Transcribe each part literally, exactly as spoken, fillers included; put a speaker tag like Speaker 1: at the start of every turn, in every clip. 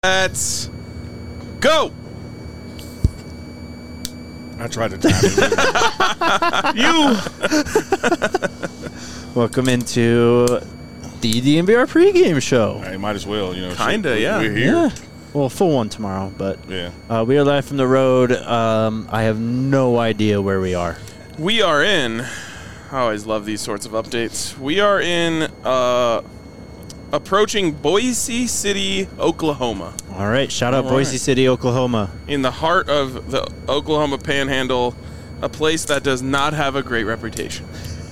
Speaker 1: Let's go.
Speaker 2: I tried to time it.
Speaker 3: You. Welcome into the D N V R pregame show.
Speaker 2: I might as well, you know.
Speaker 1: Kinda,
Speaker 2: shit,
Speaker 1: yeah.
Speaker 2: We're here.
Speaker 3: Yeah. Well, full one tomorrow, but
Speaker 2: Yeah.
Speaker 3: uh, we are live from the road. Um, I have no idea where we are.
Speaker 1: We are in. I always love these sorts of updates. We are in uh, approaching Boise City, Oklahoma,
Speaker 3: All right, shout out
Speaker 2: All
Speaker 3: Boise
Speaker 2: right.
Speaker 3: City, Oklahoma.
Speaker 1: in the heart of the Oklahoma Panhandle, a place that does not have a great reputation.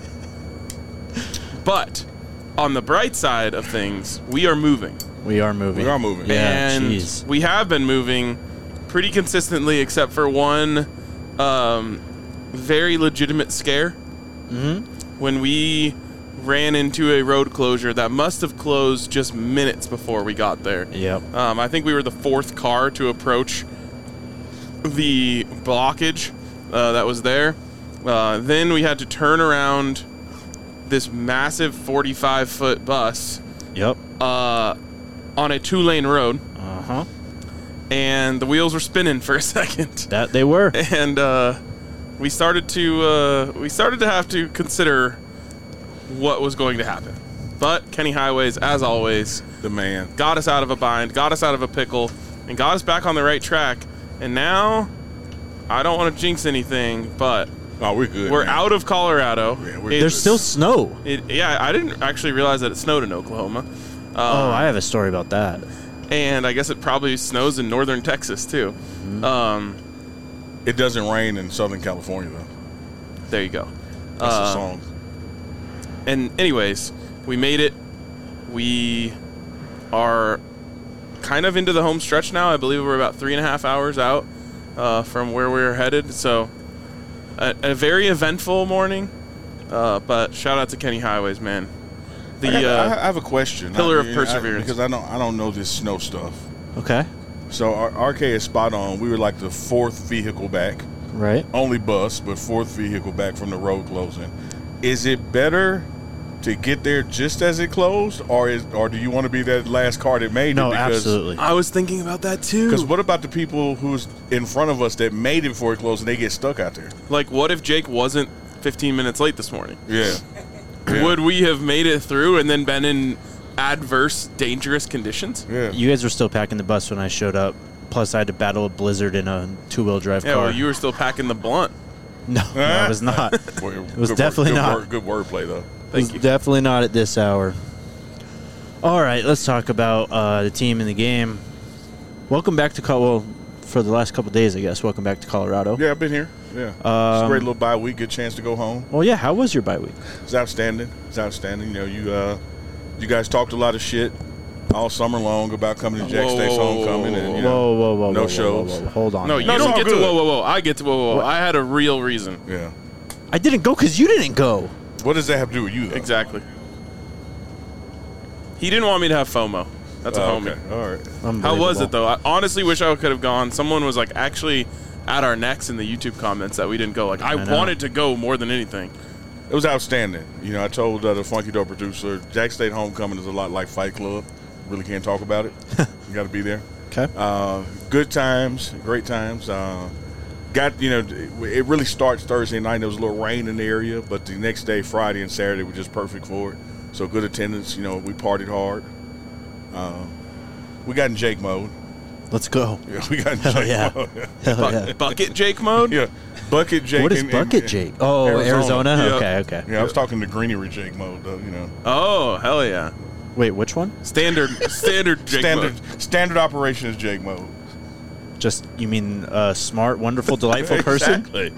Speaker 1: But on the bright side of things, we are moving.
Speaker 3: We are moving.
Speaker 2: We are moving.
Speaker 3: Yeah,
Speaker 1: and
Speaker 3: jeez.
Speaker 1: we have been moving pretty consistently, except for one um, very legitimate scare.
Speaker 3: Mm-hmm.
Speaker 1: When we ran into a road closure that must have closed just minutes before we got there.
Speaker 3: Yep.
Speaker 1: Um, I think we were the fourth car to approach the blockage uh, that was there. Uh, then we had to turn around this massive forty-five foot bus
Speaker 3: Yep.
Speaker 1: uh, on a two-lane road,
Speaker 3: Uh huh.
Speaker 1: and the wheels were spinning for a second.
Speaker 3: That they were.
Speaker 1: And uh, we started to uh, we started to have to consider what was going to happen. But Kenny Highways, as always,
Speaker 2: The man.
Speaker 1: got us out of a bind, got us out of a pickle, and got us back on the right track. And now, I don't want to jinx anything, but
Speaker 2: Oh, we're good.
Speaker 1: we're
Speaker 2: man.
Speaker 1: out of Colorado.
Speaker 2: Yeah, we're
Speaker 1: It-
Speaker 3: There's still snow.
Speaker 1: it, yeah, I didn't actually realize that it snowed in Oklahoma. Um,
Speaker 3: Oh, I have a story about that.
Speaker 1: and I guess it probably snows in northern Texas too.
Speaker 3: Mm-hmm.
Speaker 1: Um,
Speaker 2: It doesn't rain in Southern California, though.
Speaker 1: there you go.
Speaker 2: That's
Speaker 1: Uh,
Speaker 2: the song.
Speaker 1: And anyways, we made it. We are kind of into the home stretch now. I believe we're about three and a half hours out uh, from where we were headed. So a, a very eventful morning. Uh, but shout out to Kenny Highways, man. The
Speaker 2: I, got- I-
Speaker 1: uh,
Speaker 2: I have a question.
Speaker 1: pillar
Speaker 2: I-
Speaker 1: of
Speaker 2: I-
Speaker 1: perseverance.
Speaker 2: because I don't, I don't know this snow stuff.
Speaker 3: Okay.
Speaker 2: So our R K is spot on. We were like the fourth vehicle back.
Speaker 3: Right.
Speaker 2: Only bus, but fourth vehicle back from the road closing. Is it better to get there just as it closed, or is, or do you want to be that last car that made
Speaker 3: No,
Speaker 2: it? Because,
Speaker 3: absolutely.
Speaker 1: I was thinking about that too.
Speaker 2: Because what about the people who's in front of us that made it before it closed and they get stuck out there?
Speaker 1: Like, what if Jake wasn't fifteen minutes late this morning?
Speaker 2: Yeah. Yeah.
Speaker 1: Would we have made it through and then been in adverse, dangerous conditions?
Speaker 2: Yeah.
Speaker 3: You guys were still packing the bus when I showed up. Plus, I had to battle a blizzard in a two-wheel drive
Speaker 1: Yeah,
Speaker 3: car.
Speaker 1: well, you were still packing the blunt.
Speaker 3: no, no, I was not.
Speaker 2: Boy,
Speaker 3: It was
Speaker 2: good
Speaker 3: definitely
Speaker 2: word, good
Speaker 3: not.
Speaker 2: Word, good wordplay, though.
Speaker 3: It
Speaker 1: Thank
Speaker 3: was
Speaker 1: you.
Speaker 3: definitely not at this hour. All right, let's talk about uh, the team in the game. Welcome back to Col- well, for the last couple of days, I guess. Welcome back to Colorado.
Speaker 2: Yeah, I've been here. Yeah. it's a
Speaker 3: Um,
Speaker 2: great little bye week. Good chance to go home.
Speaker 3: Well, yeah. How was your bye week?
Speaker 2: It's outstanding. It's outstanding. You know, you uh, you guys talked a lot of shit all summer long about coming to Jack
Speaker 1: Whoa,
Speaker 2: State's
Speaker 1: whoa, whoa,
Speaker 2: homecoming,
Speaker 1: whoa,
Speaker 2: and you
Speaker 3: Whoa,
Speaker 2: know,
Speaker 3: whoa, whoa,
Speaker 2: no
Speaker 3: whoa,
Speaker 2: shows.
Speaker 3: Whoa, whoa, whoa. Hold on.
Speaker 1: No,
Speaker 3: here.
Speaker 1: you
Speaker 2: No, it's
Speaker 1: don't
Speaker 2: all
Speaker 1: get to
Speaker 2: good.
Speaker 1: whoa, whoa, whoa. I get to whoa, whoa, whoa.
Speaker 3: What?
Speaker 1: I had a real reason.
Speaker 2: yeah.
Speaker 3: I didn't go because you didn't go.
Speaker 2: What does that have to do with you, though?
Speaker 1: Exactly. He didn't want me to have FOMO. That's a
Speaker 2: Oh,
Speaker 1: homie.
Speaker 2: okay. All right.
Speaker 1: How was
Speaker 3: Unbelievable.
Speaker 1: it, though? I honestly wish I could have gone. Someone was, like, actually at our necks in the YouTube comments that we didn't go. Like, I,
Speaker 3: I know.
Speaker 1: wanted to go more than anything.
Speaker 2: It was outstanding. You know, I told uh, the Funky Dope producer, Jack State homecoming is a lot like Fight Club. Really can't talk about it. You got to be there.
Speaker 3: Okay.
Speaker 2: Uh, good times, great times. Uh, got, you know, it really starts Thursday night. There was a little rain in the area, but the next day, Friday and Saturday, were just perfect for it. So good attendance. You know, we partied hard. Uh, we got in Jake mode.
Speaker 3: Let's go.
Speaker 2: Yeah, we got in
Speaker 3: Hell
Speaker 2: Jake
Speaker 3: yeah.
Speaker 2: mode.
Speaker 3: Hell
Speaker 1: Bu-
Speaker 3: yeah.
Speaker 1: Bucket Jake mode?
Speaker 2: Yeah, Bucket Jake.
Speaker 3: What is
Speaker 2: and-
Speaker 3: Bucket
Speaker 2: and-
Speaker 3: Jake? Oh, Arizona.
Speaker 2: Arizona.
Speaker 1: Yeah.
Speaker 3: Okay, okay.
Speaker 2: Yeah, I was talking to Greenery Jake mode, though, you know.
Speaker 1: Oh, hell yeah.
Speaker 3: Wait, which one?
Speaker 1: Standard standard Jake
Speaker 2: Standard
Speaker 1: mode.
Speaker 2: standard operation is Jake mode.
Speaker 3: Just, you mean a smart, wonderful, delightful person?
Speaker 2: Exactly.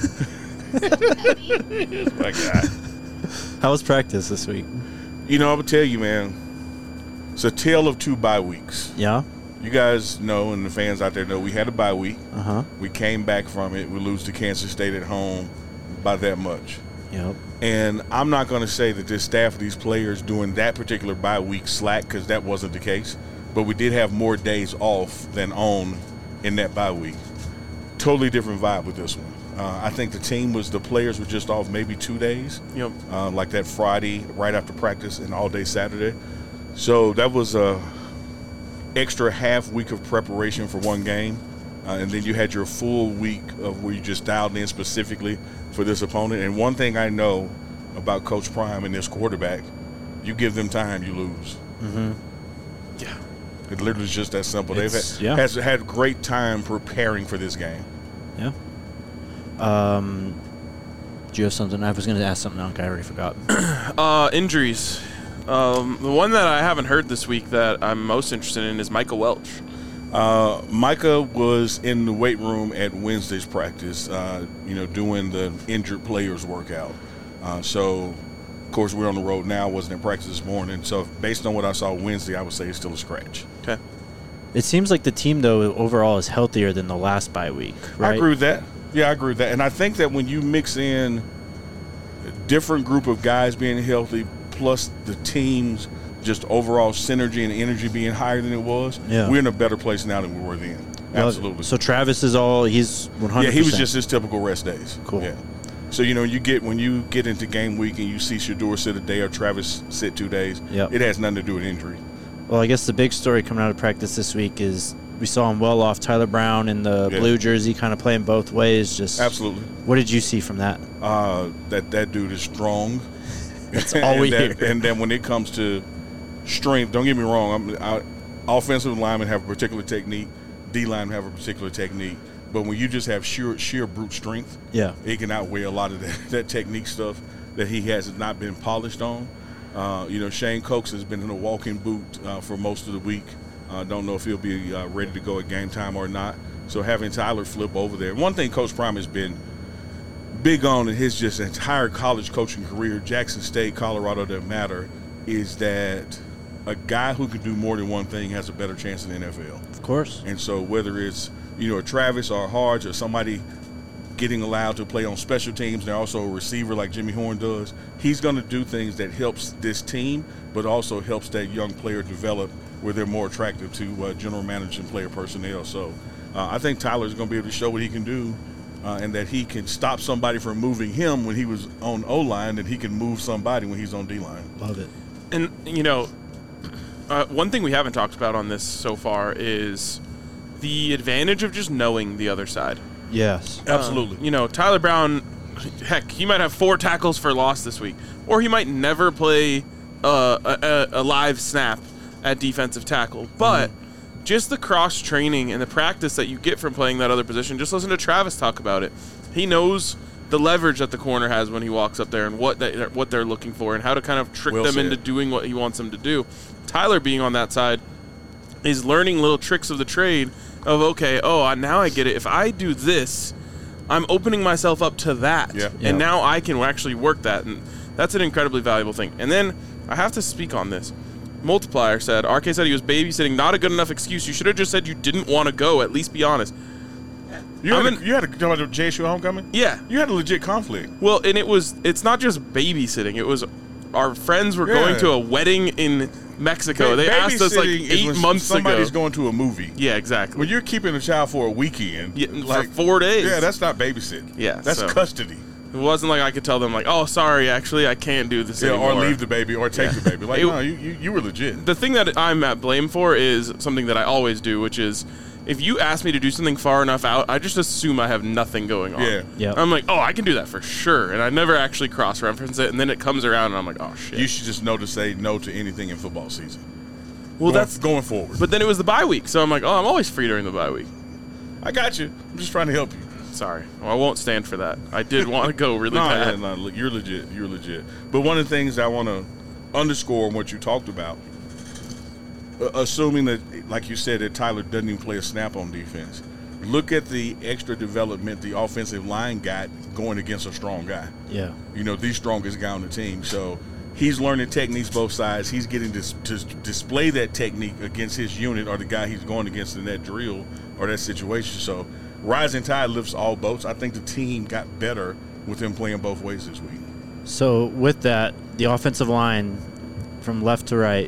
Speaker 2: My God.
Speaker 3: How was practice this week?
Speaker 2: You know, I'm going to tell you, man, it's a tale of two bye weeks.
Speaker 3: Yeah?
Speaker 2: You guys know, and the fans out there know, we had a bye week.
Speaker 3: Uh-huh.
Speaker 2: We came back from it. We lose to Kansas State at home by that much.
Speaker 3: Yep.
Speaker 2: And I'm not going to say that this staff of these players doing that particular bye week slack, because that wasn't the case. But we did have more days off than on in that bye week. Totally different vibe with this one. Uh, I think the team was, the players were just off maybe two days.
Speaker 1: Yep.
Speaker 2: Uh, like that Friday right after practice and all day Saturday. So that was uh, extra half week of preparation for one game, uh, and then you had your full week of where you just dialed in specifically for this opponent. And one thing I know about Coach Prime and this quarterback, you give them time, you lose.
Speaker 3: Mm-hmm.
Speaker 1: Yeah.
Speaker 2: It literally is just that simple.
Speaker 3: It's,
Speaker 2: They've had,
Speaker 3: yeah.
Speaker 2: has had great time preparing for this game.
Speaker 3: Yeah. Um, do you have something? I was going to ask something else. I already forgot.
Speaker 1: Uh, injuries. Um, the one that I haven't heard this week that I'm most interested in is Micah Welch.
Speaker 2: Uh, Micah was in the weight room at Wednesday's practice, uh, you know, doing the injured players workout. Uh, so, of course, we're on the road now. Wasn't in practice this morning. So, based on what I saw Wednesday, I would say it's still a scratch.
Speaker 1: Okay.
Speaker 3: It seems like the team, though, overall is healthier than the last bye week, right?
Speaker 2: I agree with that. Yeah, I agree with that. And I think that when you mix in a different group of guys being healthy, plus the team's just overall synergy and energy being higher than it was,
Speaker 3: yeah.
Speaker 2: we're in a better place now than we were then. Absolutely.
Speaker 3: So Travis is all, he's one hundred percent.
Speaker 2: Yeah, he was just his typical rest days.
Speaker 3: Cool.
Speaker 2: Yeah. So, you know, you get when you get into game week and you see Shedeur sit a day or Travis sit two days,
Speaker 3: yep.
Speaker 2: it has nothing to do with injury.
Speaker 3: Well, I guess the big story coming out of practice this week is we saw him well off Tyler Brown in the
Speaker 2: yeah.
Speaker 3: blue jersey, kind of playing both ways. Just
Speaker 2: Absolutely.
Speaker 3: What did you see from that?
Speaker 2: Uh, that that dude is strong.
Speaker 3: That's all we
Speaker 2: that,
Speaker 3: hear.
Speaker 2: And then when it comes to strength, don't get me wrong, I'm, I, offensive linemen have a particular technique, D linemen have a particular technique. But when you just have sheer sheer brute strength,
Speaker 3: yeah,
Speaker 2: it can outweigh a lot of that, that technique stuff that he has not been polished on. Uh, you know, Shane Cox has been in a walking boot uh, for most of the week. Uh, don't know if he'll be uh, ready to go at game time or not. So having Tyler flip over there. One thing Coach Prime has been big on in his just entire college coaching career, Jackson State, Colorado, doesn't matter, is that a guy who can do more than one thing has a better chance in the N F L.
Speaker 3: Of course.
Speaker 2: And so whether it's, you know, a Travis or a Harge or somebody getting allowed to play on special teams, and they're also a receiver like Jimmy Horn does, he's going to do things that helps this team, but also helps that young player develop where they're more attractive to uh, general manager and player personnel. So uh, I think Tyler's going to be able to show what he can do, uh, and that he can stop somebody from moving him when he was on O-line, and he can move somebody when he's on D-line.
Speaker 3: Love it.
Speaker 1: And, you know, uh, one thing we haven't talked about on this so far is the advantage of just knowing the other side.
Speaker 3: Yes.
Speaker 2: Absolutely.
Speaker 1: Um, you know, Tyler Brown, heck, he might have four tackles for loss this week, or he might never play uh, a, a live snap at defensive tackle. But mm-hmm. just the cross-training and the practice that you get from playing that other position, just listen to Travis talk about it. He knows the leverage that the corner has when he walks up there and what they, what they're looking for and how to kind of trick
Speaker 2: well
Speaker 1: them
Speaker 2: said.
Speaker 1: into doing what he wants them to do. Tyler being on that side is learning little tricks of the trade of, okay, oh, now I get it. If I do this, I'm opening myself up to that.
Speaker 2: Yeah.
Speaker 1: And
Speaker 3: Yeah.
Speaker 1: now I can actually work that. And that's an incredibly valuable thing. And then I have to speak on this. Multiplier said, R K said he was babysitting. Not a good enough excuse. You should have just said you didn't want to go. At least be honest.
Speaker 2: You had,
Speaker 1: I'm
Speaker 2: a,
Speaker 1: in-
Speaker 2: you had a, you talking about the J S U homecoming?
Speaker 1: Yeah.
Speaker 2: You had a legit conflict.
Speaker 1: Well, and it was, it's not just babysitting. It was our friends were
Speaker 2: Yeah.
Speaker 1: going to a wedding in Mexico. They asked us like
Speaker 2: Babysitting is
Speaker 1: eight
Speaker 2: when
Speaker 1: months
Speaker 2: somebody's
Speaker 1: ago.
Speaker 2: going to a movie.
Speaker 1: Yeah, exactly.
Speaker 2: When you're keeping a child for a weekend,
Speaker 1: Yeah,
Speaker 2: like
Speaker 1: for four days.
Speaker 2: yeah, that's not babysitting.
Speaker 1: Yeah,
Speaker 2: that's
Speaker 1: so-
Speaker 2: custody.
Speaker 1: It wasn't like I could tell them like, oh, sorry, actually, I can't do this
Speaker 2: Yeah,
Speaker 1: anymore.
Speaker 2: or leave the baby, or take
Speaker 1: Yeah.
Speaker 2: the baby. Like,
Speaker 1: It-
Speaker 2: no, you, you you were legit.
Speaker 1: The thing that I'm at blame for is something that I always do, which is if you ask me to do something far enough out, I just assume I have nothing going on.
Speaker 2: Yeah.
Speaker 3: Yep.
Speaker 1: I'm like, oh, I can do that for sure. And I never actually cross-reference it. And then it comes around and I'm like, oh, shit.
Speaker 2: You should just know to say no to anything in football season.
Speaker 1: well,
Speaker 2: going,
Speaker 1: that's
Speaker 2: going forward.
Speaker 1: But then it was the bye week. So I'm like, oh, I'm always free during the bye week.
Speaker 2: I got you. I'm just trying to help you.
Speaker 1: Sorry. Well, I won't stand for that. I did want to go really
Speaker 2: no,
Speaker 1: bad.
Speaker 2: no, no, you're legit. You're legit. But one of the things I want to underscore on what you talked about, uh, assuming that, like you said, that Tyler doesn't even play a snap on defense, look at the extra development the offensive line got going against a strong guy.
Speaker 3: Yeah.
Speaker 2: You know, the strongest guy on the team. So he's learning techniques both sides. He's getting to, to display that technique against his unit or the guy he's going against in that drill or that situation. So rising tide lifts all boats. I think the team got better with him playing both ways this week.
Speaker 3: So with that, the offensive line from left to right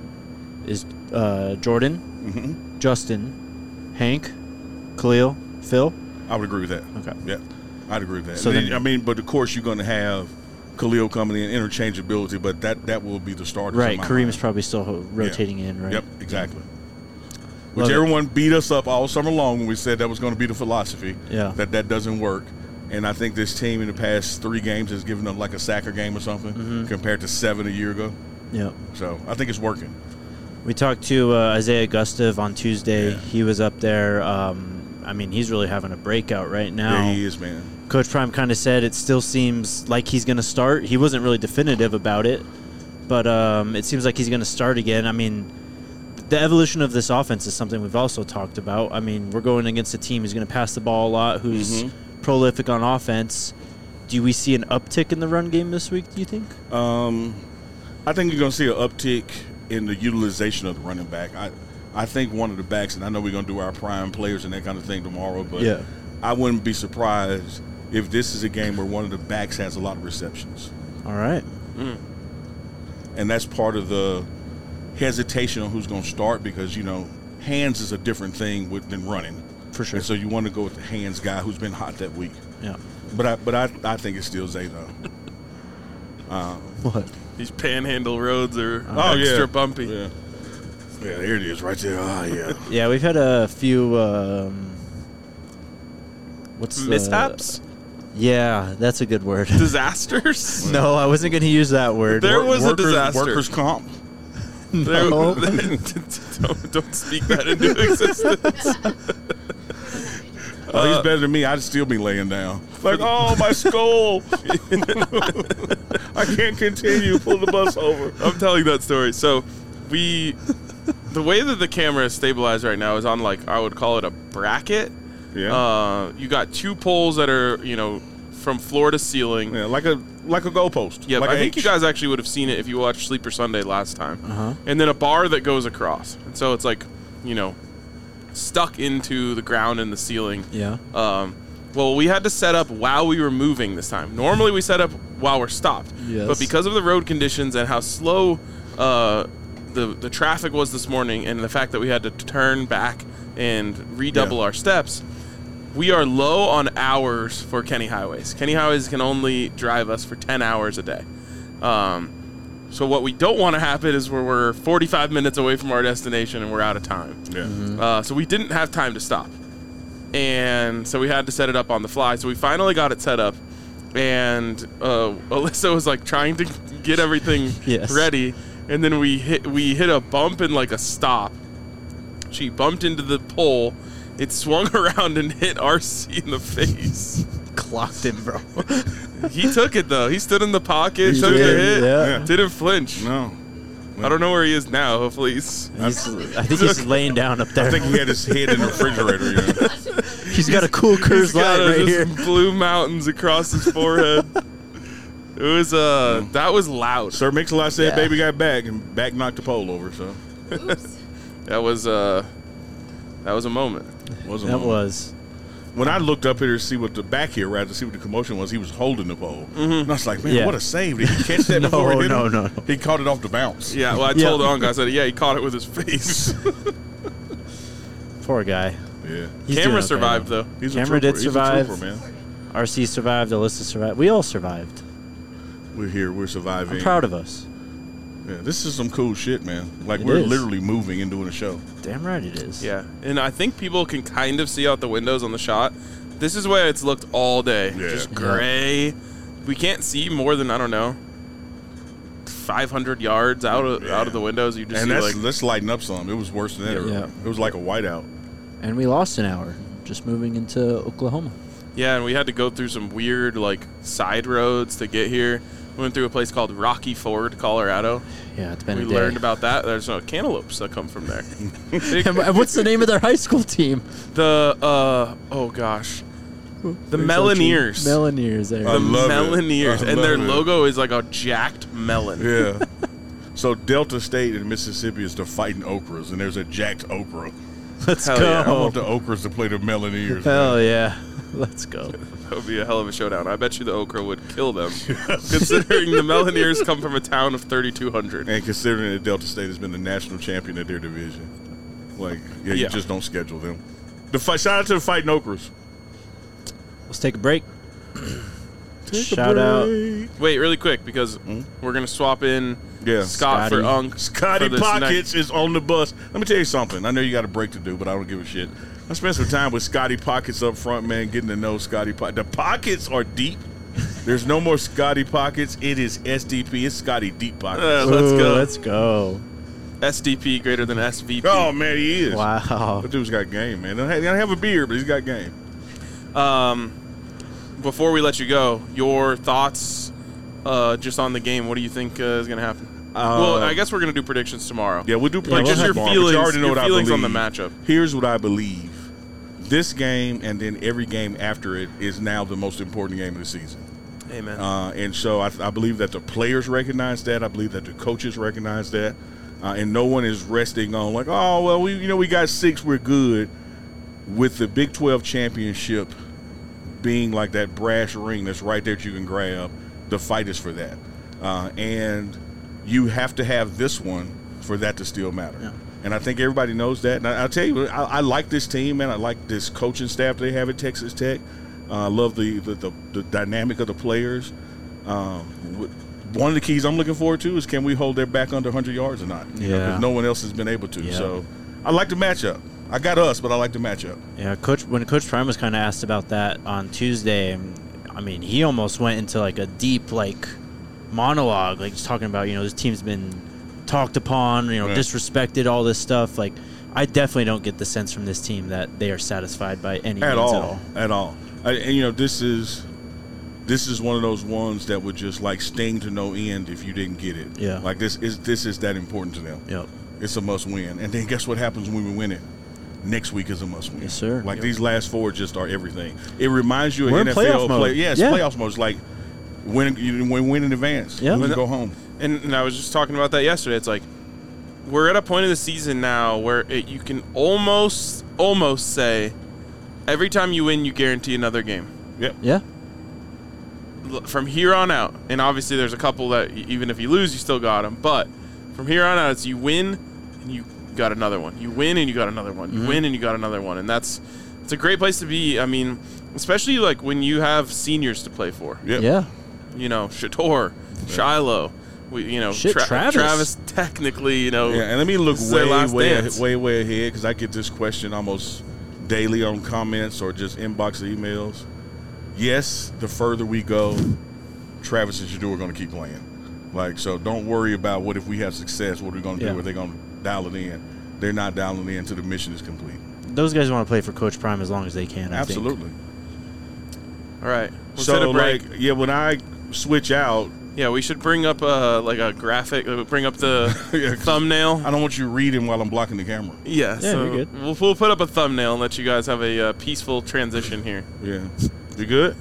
Speaker 3: is uh, Jordan,
Speaker 2: Mm-hmm.
Speaker 3: Justin, Hank, Khalil, Phil.
Speaker 2: I would agree with that.
Speaker 3: Okay.
Speaker 2: Yeah, I'd agree with that.
Speaker 3: So
Speaker 2: Then,
Speaker 3: then-
Speaker 2: I mean, but of course you're going to have Khalil coming in, interchangeability, but that, that will be the starter.
Speaker 3: Right. Kareem's probably still ho- rotating in, right?
Speaker 2: Yep, exactly. which
Speaker 3: Love it.
Speaker 2: everyone beat us up all summer long when we said that was going to be the philosophy.
Speaker 3: Yeah.
Speaker 2: That that doesn't work. And I think this team in the past three games has given them like a sacker game or something
Speaker 3: Mm-hmm.
Speaker 2: compared to seven a year ago.
Speaker 3: Yeah.
Speaker 2: So I think it's working.
Speaker 3: We talked to uh, Isaiah Gustav on Tuesday.
Speaker 2: Yeah.
Speaker 3: He was up there. Um, I mean, he's really having a breakout right now.
Speaker 2: Yeah, he is, man.
Speaker 3: Coach Prime kind of said it still seems like he's going to start. He wasn't really definitive about it, but um, it seems like he's going to start again. I mean, the evolution of this offense is something we've also talked about. I mean, we're going against a team who's going to pass the ball a lot, who's
Speaker 2: Mm-hmm.
Speaker 3: prolific on offense. Do we see an uptick in the run game this week, do you think?
Speaker 2: Um, I think you're going to see an uptick in the utilization of the running back. I, I think one of the backs, and I know we're going to do our prime players and that kind of thing tomorrow, but
Speaker 3: Yeah.
Speaker 2: I wouldn't be surprised if this is a game where one of the backs has a lot of receptions.
Speaker 3: All right.
Speaker 2: And that's part of the hesitation on who's going to start because, you know, hands is a different thing with, than running.
Speaker 3: For sure.
Speaker 2: And so you want to go with the hands guy who's been hot that week.
Speaker 3: Yeah.
Speaker 2: But I but I, I think it's still Zay, though. Uh,
Speaker 3: What?
Speaker 1: These panhandle roads are
Speaker 2: oh,
Speaker 1: extra
Speaker 2: yeah.
Speaker 1: bumpy.
Speaker 2: Yeah. Yeah, there it is right there. Oh, yeah.
Speaker 3: Yeah, we've had a few. Um, what's the-
Speaker 1: Mishaps?
Speaker 3: Yeah, that's a good word.
Speaker 1: Disasters?
Speaker 3: No, I wasn't going to use that word.
Speaker 1: There was a
Speaker 2: workers,
Speaker 1: disaster.
Speaker 2: Workers' comp.
Speaker 1: There-
Speaker 3: No.
Speaker 1: don't, don't speak that into existence.
Speaker 2: Oh, he's better than me. I'd still be laying down. Like, oh, my skull. I can't continue. Pull the bus over.
Speaker 1: I'm telling that story. So we, the way that the camera is stabilized right now is on like, I would call it a bracket.
Speaker 2: Yeah.
Speaker 1: Uh, you got two poles that are, you know, from floor to ceiling.
Speaker 2: yeah, like a like a goalpost.
Speaker 1: Yeah,
Speaker 2: like
Speaker 1: I
Speaker 2: a
Speaker 1: think
Speaker 2: H.
Speaker 1: you guys actually would have seen it if you watched Sleeper Sunday last time.
Speaker 3: Uh-huh.
Speaker 1: And then a bar that goes across. And so it's like, you know, stuck into the ground and the ceiling.
Speaker 3: Yeah.
Speaker 1: Um, well, we had to set up while we were moving this time. Normally we set up while we're stopped.
Speaker 3: Yes.
Speaker 1: But because of the road conditions and how slow uh, the, the traffic was this morning and the fact that we had to turn back and redouble
Speaker 2: Yeah.
Speaker 1: our steps, we are low on hours for Kenny Highways. Kenny Highways can only drive us for ten hours a day. Um, so what we don't want to happen is where we're forty-five minutes away from our destination and we're out of time.
Speaker 2: Yeah.
Speaker 1: Uh, so we didn't have time to stop. And so we had to set it up on the fly. So we finally got it set up. And uh, Alyssa was like trying to get everything
Speaker 3: Yes.
Speaker 1: ready. And then we hit we hit a bump and like a stop. She bumped into the pole. It swung around and hit R C in the face.
Speaker 3: Clocked him, bro.
Speaker 1: He took it though. He stood in the pocket,
Speaker 3: He
Speaker 1: took the
Speaker 3: did,
Speaker 1: hit,
Speaker 3: yeah.
Speaker 1: didn't flinch.
Speaker 2: No.
Speaker 1: I don't know where he is now. Hopefully he's
Speaker 3: He's, I think he's laying down up there.
Speaker 2: I think he had his head in the refrigerator. Yeah.
Speaker 3: He's got a cool
Speaker 1: he's
Speaker 3: Coors
Speaker 1: got
Speaker 3: Light
Speaker 1: uh,
Speaker 3: right
Speaker 1: just
Speaker 3: here.
Speaker 1: blue mountains across his forehead. It was uh that was loud.
Speaker 2: Sir Mix-a-Lot said
Speaker 3: Yeah.
Speaker 2: baby got back, and back knocked the pole over. So
Speaker 4: Oops.
Speaker 1: That was uh that was a moment.
Speaker 2: wasn't
Speaker 3: That
Speaker 2: long.
Speaker 3: was.
Speaker 2: When I looked up here to see what the back here, rather to see what the commotion was, he was holding the pole. And I was like, man,
Speaker 3: Yeah.
Speaker 2: what a save! Did he catch that
Speaker 3: No,
Speaker 2: before he hit
Speaker 3: no,
Speaker 2: him?
Speaker 3: no, no.
Speaker 2: He caught it off the bounce.
Speaker 1: Yeah, well I
Speaker 3: Yeah.
Speaker 1: told Uncle, I said, yeah, he caught it with his face.
Speaker 3: Poor guy.
Speaker 2: Yeah.
Speaker 3: He's doing
Speaker 1: Camera
Speaker 3: okay,
Speaker 1: survived
Speaker 3: though.
Speaker 1: though.
Speaker 2: He's
Speaker 3: Camera
Speaker 2: a trooper.
Speaker 3: did
Speaker 2: He's
Speaker 3: survive.
Speaker 2: a trooper, man.
Speaker 3: R C survived. Alyssa survived. We all survived.
Speaker 2: We're here. We're surviving.
Speaker 3: I'm proud of us.
Speaker 2: Yeah, this is some cool shit, man. Like,
Speaker 3: It
Speaker 2: we're
Speaker 3: is.
Speaker 2: literally moving and doing a show.
Speaker 3: Damn right it is.
Speaker 1: Yeah. And I think people can kind of see out the windows on the shot. This is where it's looked all day.
Speaker 2: Yeah.
Speaker 1: Just
Speaker 2: Yeah.
Speaker 1: gray. We can't see more than I don't know five hundred yards out of
Speaker 2: Yeah.
Speaker 1: out of the windows. You just
Speaker 2: And
Speaker 1: see
Speaker 2: that's
Speaker 1: like
Speaker 2: let's lighten up some. It was worse than that. earlier.
Speaker 3: Yeah.
Speaker 2: It was like a whiteout.
Speaker 3: And we lost an hour just moving into Oklahoma.
Speaker 1: yeah, and we had to go through some weird like side roads to get here. We went through a place called Rocky Ford, Colorado.
Speaker 3: Yeah, it's been
Speaker 1: We
Speaker 3: a day.
Speaker 1: learned about that. There's no cantaloupes that come from there.
Speaker 3: And what's the name of their high school team?
Speaker 1: the uh oh gosh, the Melineers.
Speaker 3: Melineers. There.
Speaker 2: I
Speaker 1: the
Speaker 2: love it.
Speaker 1: Melineers,
Speaker 2: I
Speaker 1: and their
Speaker 2: love it.
Speaker 1: logo is like a jacked melon.
Speaker 2: Yeah. So Delta State in Mississippi is the fighting okras, and there's a jacked okra.
Speaker 3: Let's
Speaker 1: Hell
Speaker 3: go.
Speaker 1: yeah.
Speaker 2: I want the okras to play the Melineers.
Speaker 3: Hell
Speaker 2: man.
Speaker 3: yeah. Let's go.
Speaker 1: That would be a hell of a showdown. I bet you the okra would kill them, considering the Melineers come from a town of thirty-two hundred.
Speaker 2: And considering that Delta State has been the national champion of their division, like, yeah, you
Speaker 1: Yeah.
Speaker 2: just don't schedule them. The fight, shout out to the fighting okras.
Speaker 3: Let's take a break.
Speaker 2: Take a
Speaker 3: Shout out.
Speaker 2: break.
Speaker 1: Wait, really quick, because
Speaker 2: Mm.
Speaker 1: we're going to swap in
Speaker 2: Yeah.
Speaker 1: Scott for
Speaker 3: Scotty.
Speaker 1: Unk.
Speaker 2: Scotty
Speaker 1: for this
Speaker 2: Pockets is on the bus. Let me tell you something. I know you got a break to do, but I don't give a shit. I spent some time with Scotty Pockets up front, man, getting to know Scotty Pockets. The pockets are deep. There's no more Scotty Pockets. It is S D P. It's Scotty Deep Pockets.
Speaker 1: Uh, let's
Speaker 3: Ooh,
Speaker 1: go.
Speaker 3: Let's go.
Speaker 1: S D P greater than S V P.
Speaker 2: Oh, man, he is.
Speaker 3: Wow.
Speaker 2: That dude's got game, man. He don't have a beard, but he's got game.
Speaker 1: Um, before we let you go, your thoughts uh, just on the game. What do you think uh, is going to happen?
Speaker 2: Uh,
Speaker 1: well, I guess we're going to do predictions tomorrow.
Speaker 2: Yeah, we'll do
Speaker 3: we'll
Speaker 1: Like, just
Speaker 2: predictions
Speaker 1: your
Speaker 3: have-
Speaker 2: tomorrow, but
Speaker 1: feelings,
Speaker 2: you already know
Speaker 1: your
Speaker 2: what
Speaker 1: feelings
Speaker 2: I
Speaker 1: on the
Speaker 2: believe.
Speaker 1: matchup.
Speaker 2: Here's what I believe. This game and then every game after it is now the most important game of the season.
Speaker 1: Amen.
Speaker 2: Uh, and so I, I believe that the players recognize that. I believe that the coaches recognize that. Uh, and no one is resting on like, oh, well, we you know we got six, we're good. With the Big twelve championship being like that brass ring that's right there that you can grab, the fight is for that. Uh, and you have to have this one for that to still matter.
Speaker 3: Yeah.
Speaker 2: And I think everybody knows that. And I, I'll tell you, I, I like this team, man. I like this coaching staff they have at Texas Tech. Uh, I love the, the, the, the dynamic of the players. Um, one of the keys I'm looking forward to is can we hold their back under one hundred yards or not? You know,
Speaker 3: Yeah.
Speaker 2: 'cause no one else has been able to.
Speaker 3: Yeah.
Speaker 2: So I like the matchup. I got us, but I like the matchup.
Speaker 3: Yeah, Coach. When Coach Prime was kind of asked about that on Tuesday, I mean, he almost went into like a deep like monologue, like just talking about you know this team's been talked upon, you know,
Speaker 2: Yeah.
Speaker 3: disrespected, all this stuff. Like, I definitely don't get the sense from this team that they are satisfied by any
Speaker 2: At
Speaker 3: means
Speaker 2: all,
Speaker 3: at all.
Speaker 2: at all. I, and you know, this is this is one of those ones that would just like sting to no end if you didn't get it.
Speaker 3: Yeah.
Speaker 2: Like this is this is that important to them.
Speaker 3: Yep.
Speaker 2: It's a must win. And then guess what happens when we win it? Next week is a must win.
Speaker 3: Yes, sir.
Speaker 2: Like
Speaker 3: Yep.
Speaker 2: these last four just are everything. It reminds you of
Speaker 3: We're in
Speaker 2: N F L
Speaker 3: playoff mode.
Speaker 2: play. Yeah, it's
Speaker 3: Yeah.
Speaker 2: playoff mode. It's like win you win, win in advance.
Speaker 3: Yeah.
Speaker 2: Lose and go home.
Speaker 1: And, and I was just talking about that yesterday. It's like we're at a point of the season now where it, you can almost, almost say every time you win, you guarantee another game.
Speaker 2: Yep.
Speaker 3: Yeah.
Speaker 1: L- From here on out, and obviously there's a couple that y- even if you lose, you still got them. But from here on out, it's you win and you got another one. You win and you got another one. You
Speaker 3: Mhm.
Speaker 1: win and you got another one. And that's it's a great place to be. I mean, especially like when you have seniors to play for.
Speaker 2: Yep.
Speaker 3: Yeah.
Speaker 1: You know, Shador, Shiloh. We, you know,
Speaker 3: Shit,
Speaker 1: Tra-
Speaker 3: Travis.
Speaker 1: Travis technically, you know.
Speaker 2: Yeah, and let me look
Speaker 1: This is their
Speaker 2: way,
Speaker 1: last
Speaker 2: way,
Speaker 1: dance.
Speaker 2: way, way ahead because I get this question almost daily on comments or just inbox emails. Yes, the further we go, Travis and Shador are going to keep playing. Like, so don't worry about what if we have success, what are we going to
Speaker 3: Yeah.
Speaker 2: do? Are they going to dial it in? They're not dialing it in until the mission is complete.
Speaker 3: Those guys want to play for Coach Prime as long as they can. I
Speaker 2: Absolutely.
Speaker 1: All right. Let's
Speaker 2: So,
Speaker 1: hit a break.
Speaker 2: like, yeah, when I switch out,
Speaker 1: Yeah, we should bring up uh, like a graphic. Uh, bring up the
Speaker 2: Yeah, 'cause
Speaker 1: thumbnail.
Speaker 2: I don't want you reading while I'm blocking the camera.
Speaker 1: Yeah,
Speaker 3: Yeah,
Speaker 1: so
Speaker 3: you're good.
Speaker 1: We'll, we'll put up a thumbnail and think you guys have a uh, peaceful transition here.
Speaker 2: Yeah. You good?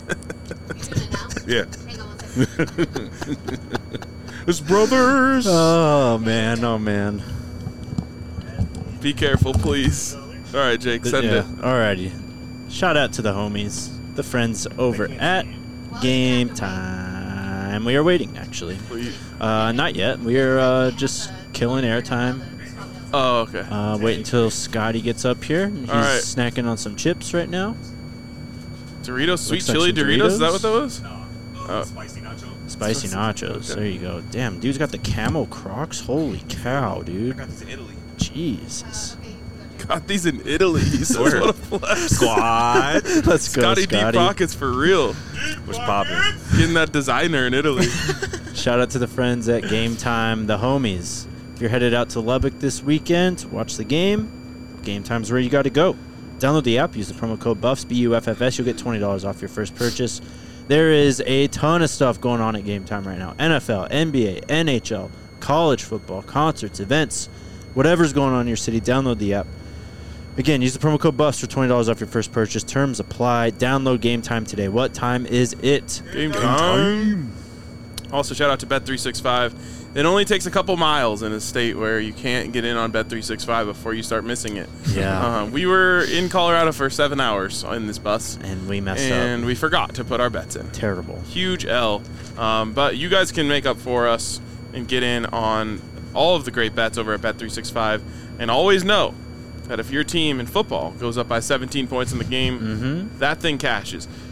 Speaker 2: Yeah.
Speaker 4: Hang on one second.
Speaker 2: It's brothers.
Speaker 3: Oh man. Oh man.
Speaker 1: Be careful, please. All right, Jake, send
Speaker 3: yeah.
Speaker 1: it.
Speaker 3: Alrighty. Shout out to the homies, the friends over at Game Time. We are waiting, actually.
Speaker 1: Please.
Speaker 3: Uh, not yet. We are uh, just killing airtime.
Speaker 1: Oh, okay.
Speaker 3: Uh, wait until Scotty gets up here. He's
Speaker 1: All right.
Speaker 3: snacking on some chips right now.
Speaker 1: Doritos, sweet
Speaker 3: Looks like
Speaker 1: chili
Speaker 3: some
Speaker 1: Doritos. Is that
Speaker 3: Doritos.
Speaker 1: what that was? Oh.
Speaker 3: Spicy nachos.
Speaker 1: Okay.
Speaker 3: There you go. Damn, dude's got the camel Crocs. Holy cow, dude.
Speaker 5: got this in Italy.
Speaker 3: Jesus.
Speaker 1: Got these in Italy. He says,
Speaker 5: Where?
Speaker 1: what a flex.
Speaker 5: Squad.
Speaker 3: Let's go,
Speaker 1: Scotty
Speaker 3: Scotty.
Speaker 1: Deep Pockets for real.
Speaker 5: What's poppin'?
Speaker 1: Getting that designer in Italy.
Speaker 3: Shout out to the friends at Game Time, the homies. If you're headed out to Lubbock this weekend to watch the game, Game Time's where you got to go. Download the app, use the promo code BUFFS, B U F F S. You'll get twenty dollars off your first purchase. There is a ton of stuff going on at Game Time right now. N F L, N B A, N H L, college football, concerts, events, whatever's going on in your city, download the app. Again, use the promo code BUFFS for twenty dollars off your first purchase. Terms apply. Download Game Time today. What time is it?
Speaker 1: Game time. Also, shout out to Bet three sixty-five. It only takes a couple miles in a state where you can't get in on Bet three sixty-five before you start missing it.
Speaker 3: Yeah.
Speaker 1: Uh, we were in Colorado for seven hours in this bus,
Speaker 3: And we messed
Speaker 1: and
Speaker 3: up.
Speaker 1: we forgot to put our bets in.
Speaker 3: Terrible.
Speaker 1: Huge L. Um, but you guys can make up for us and get in on all of the great bets over at Bet three sixty-five. And always know that if your team in football goes up by seventeen points in the game,
Speaker 3: Mm-hmm.
Speaker 1: that thing cashes.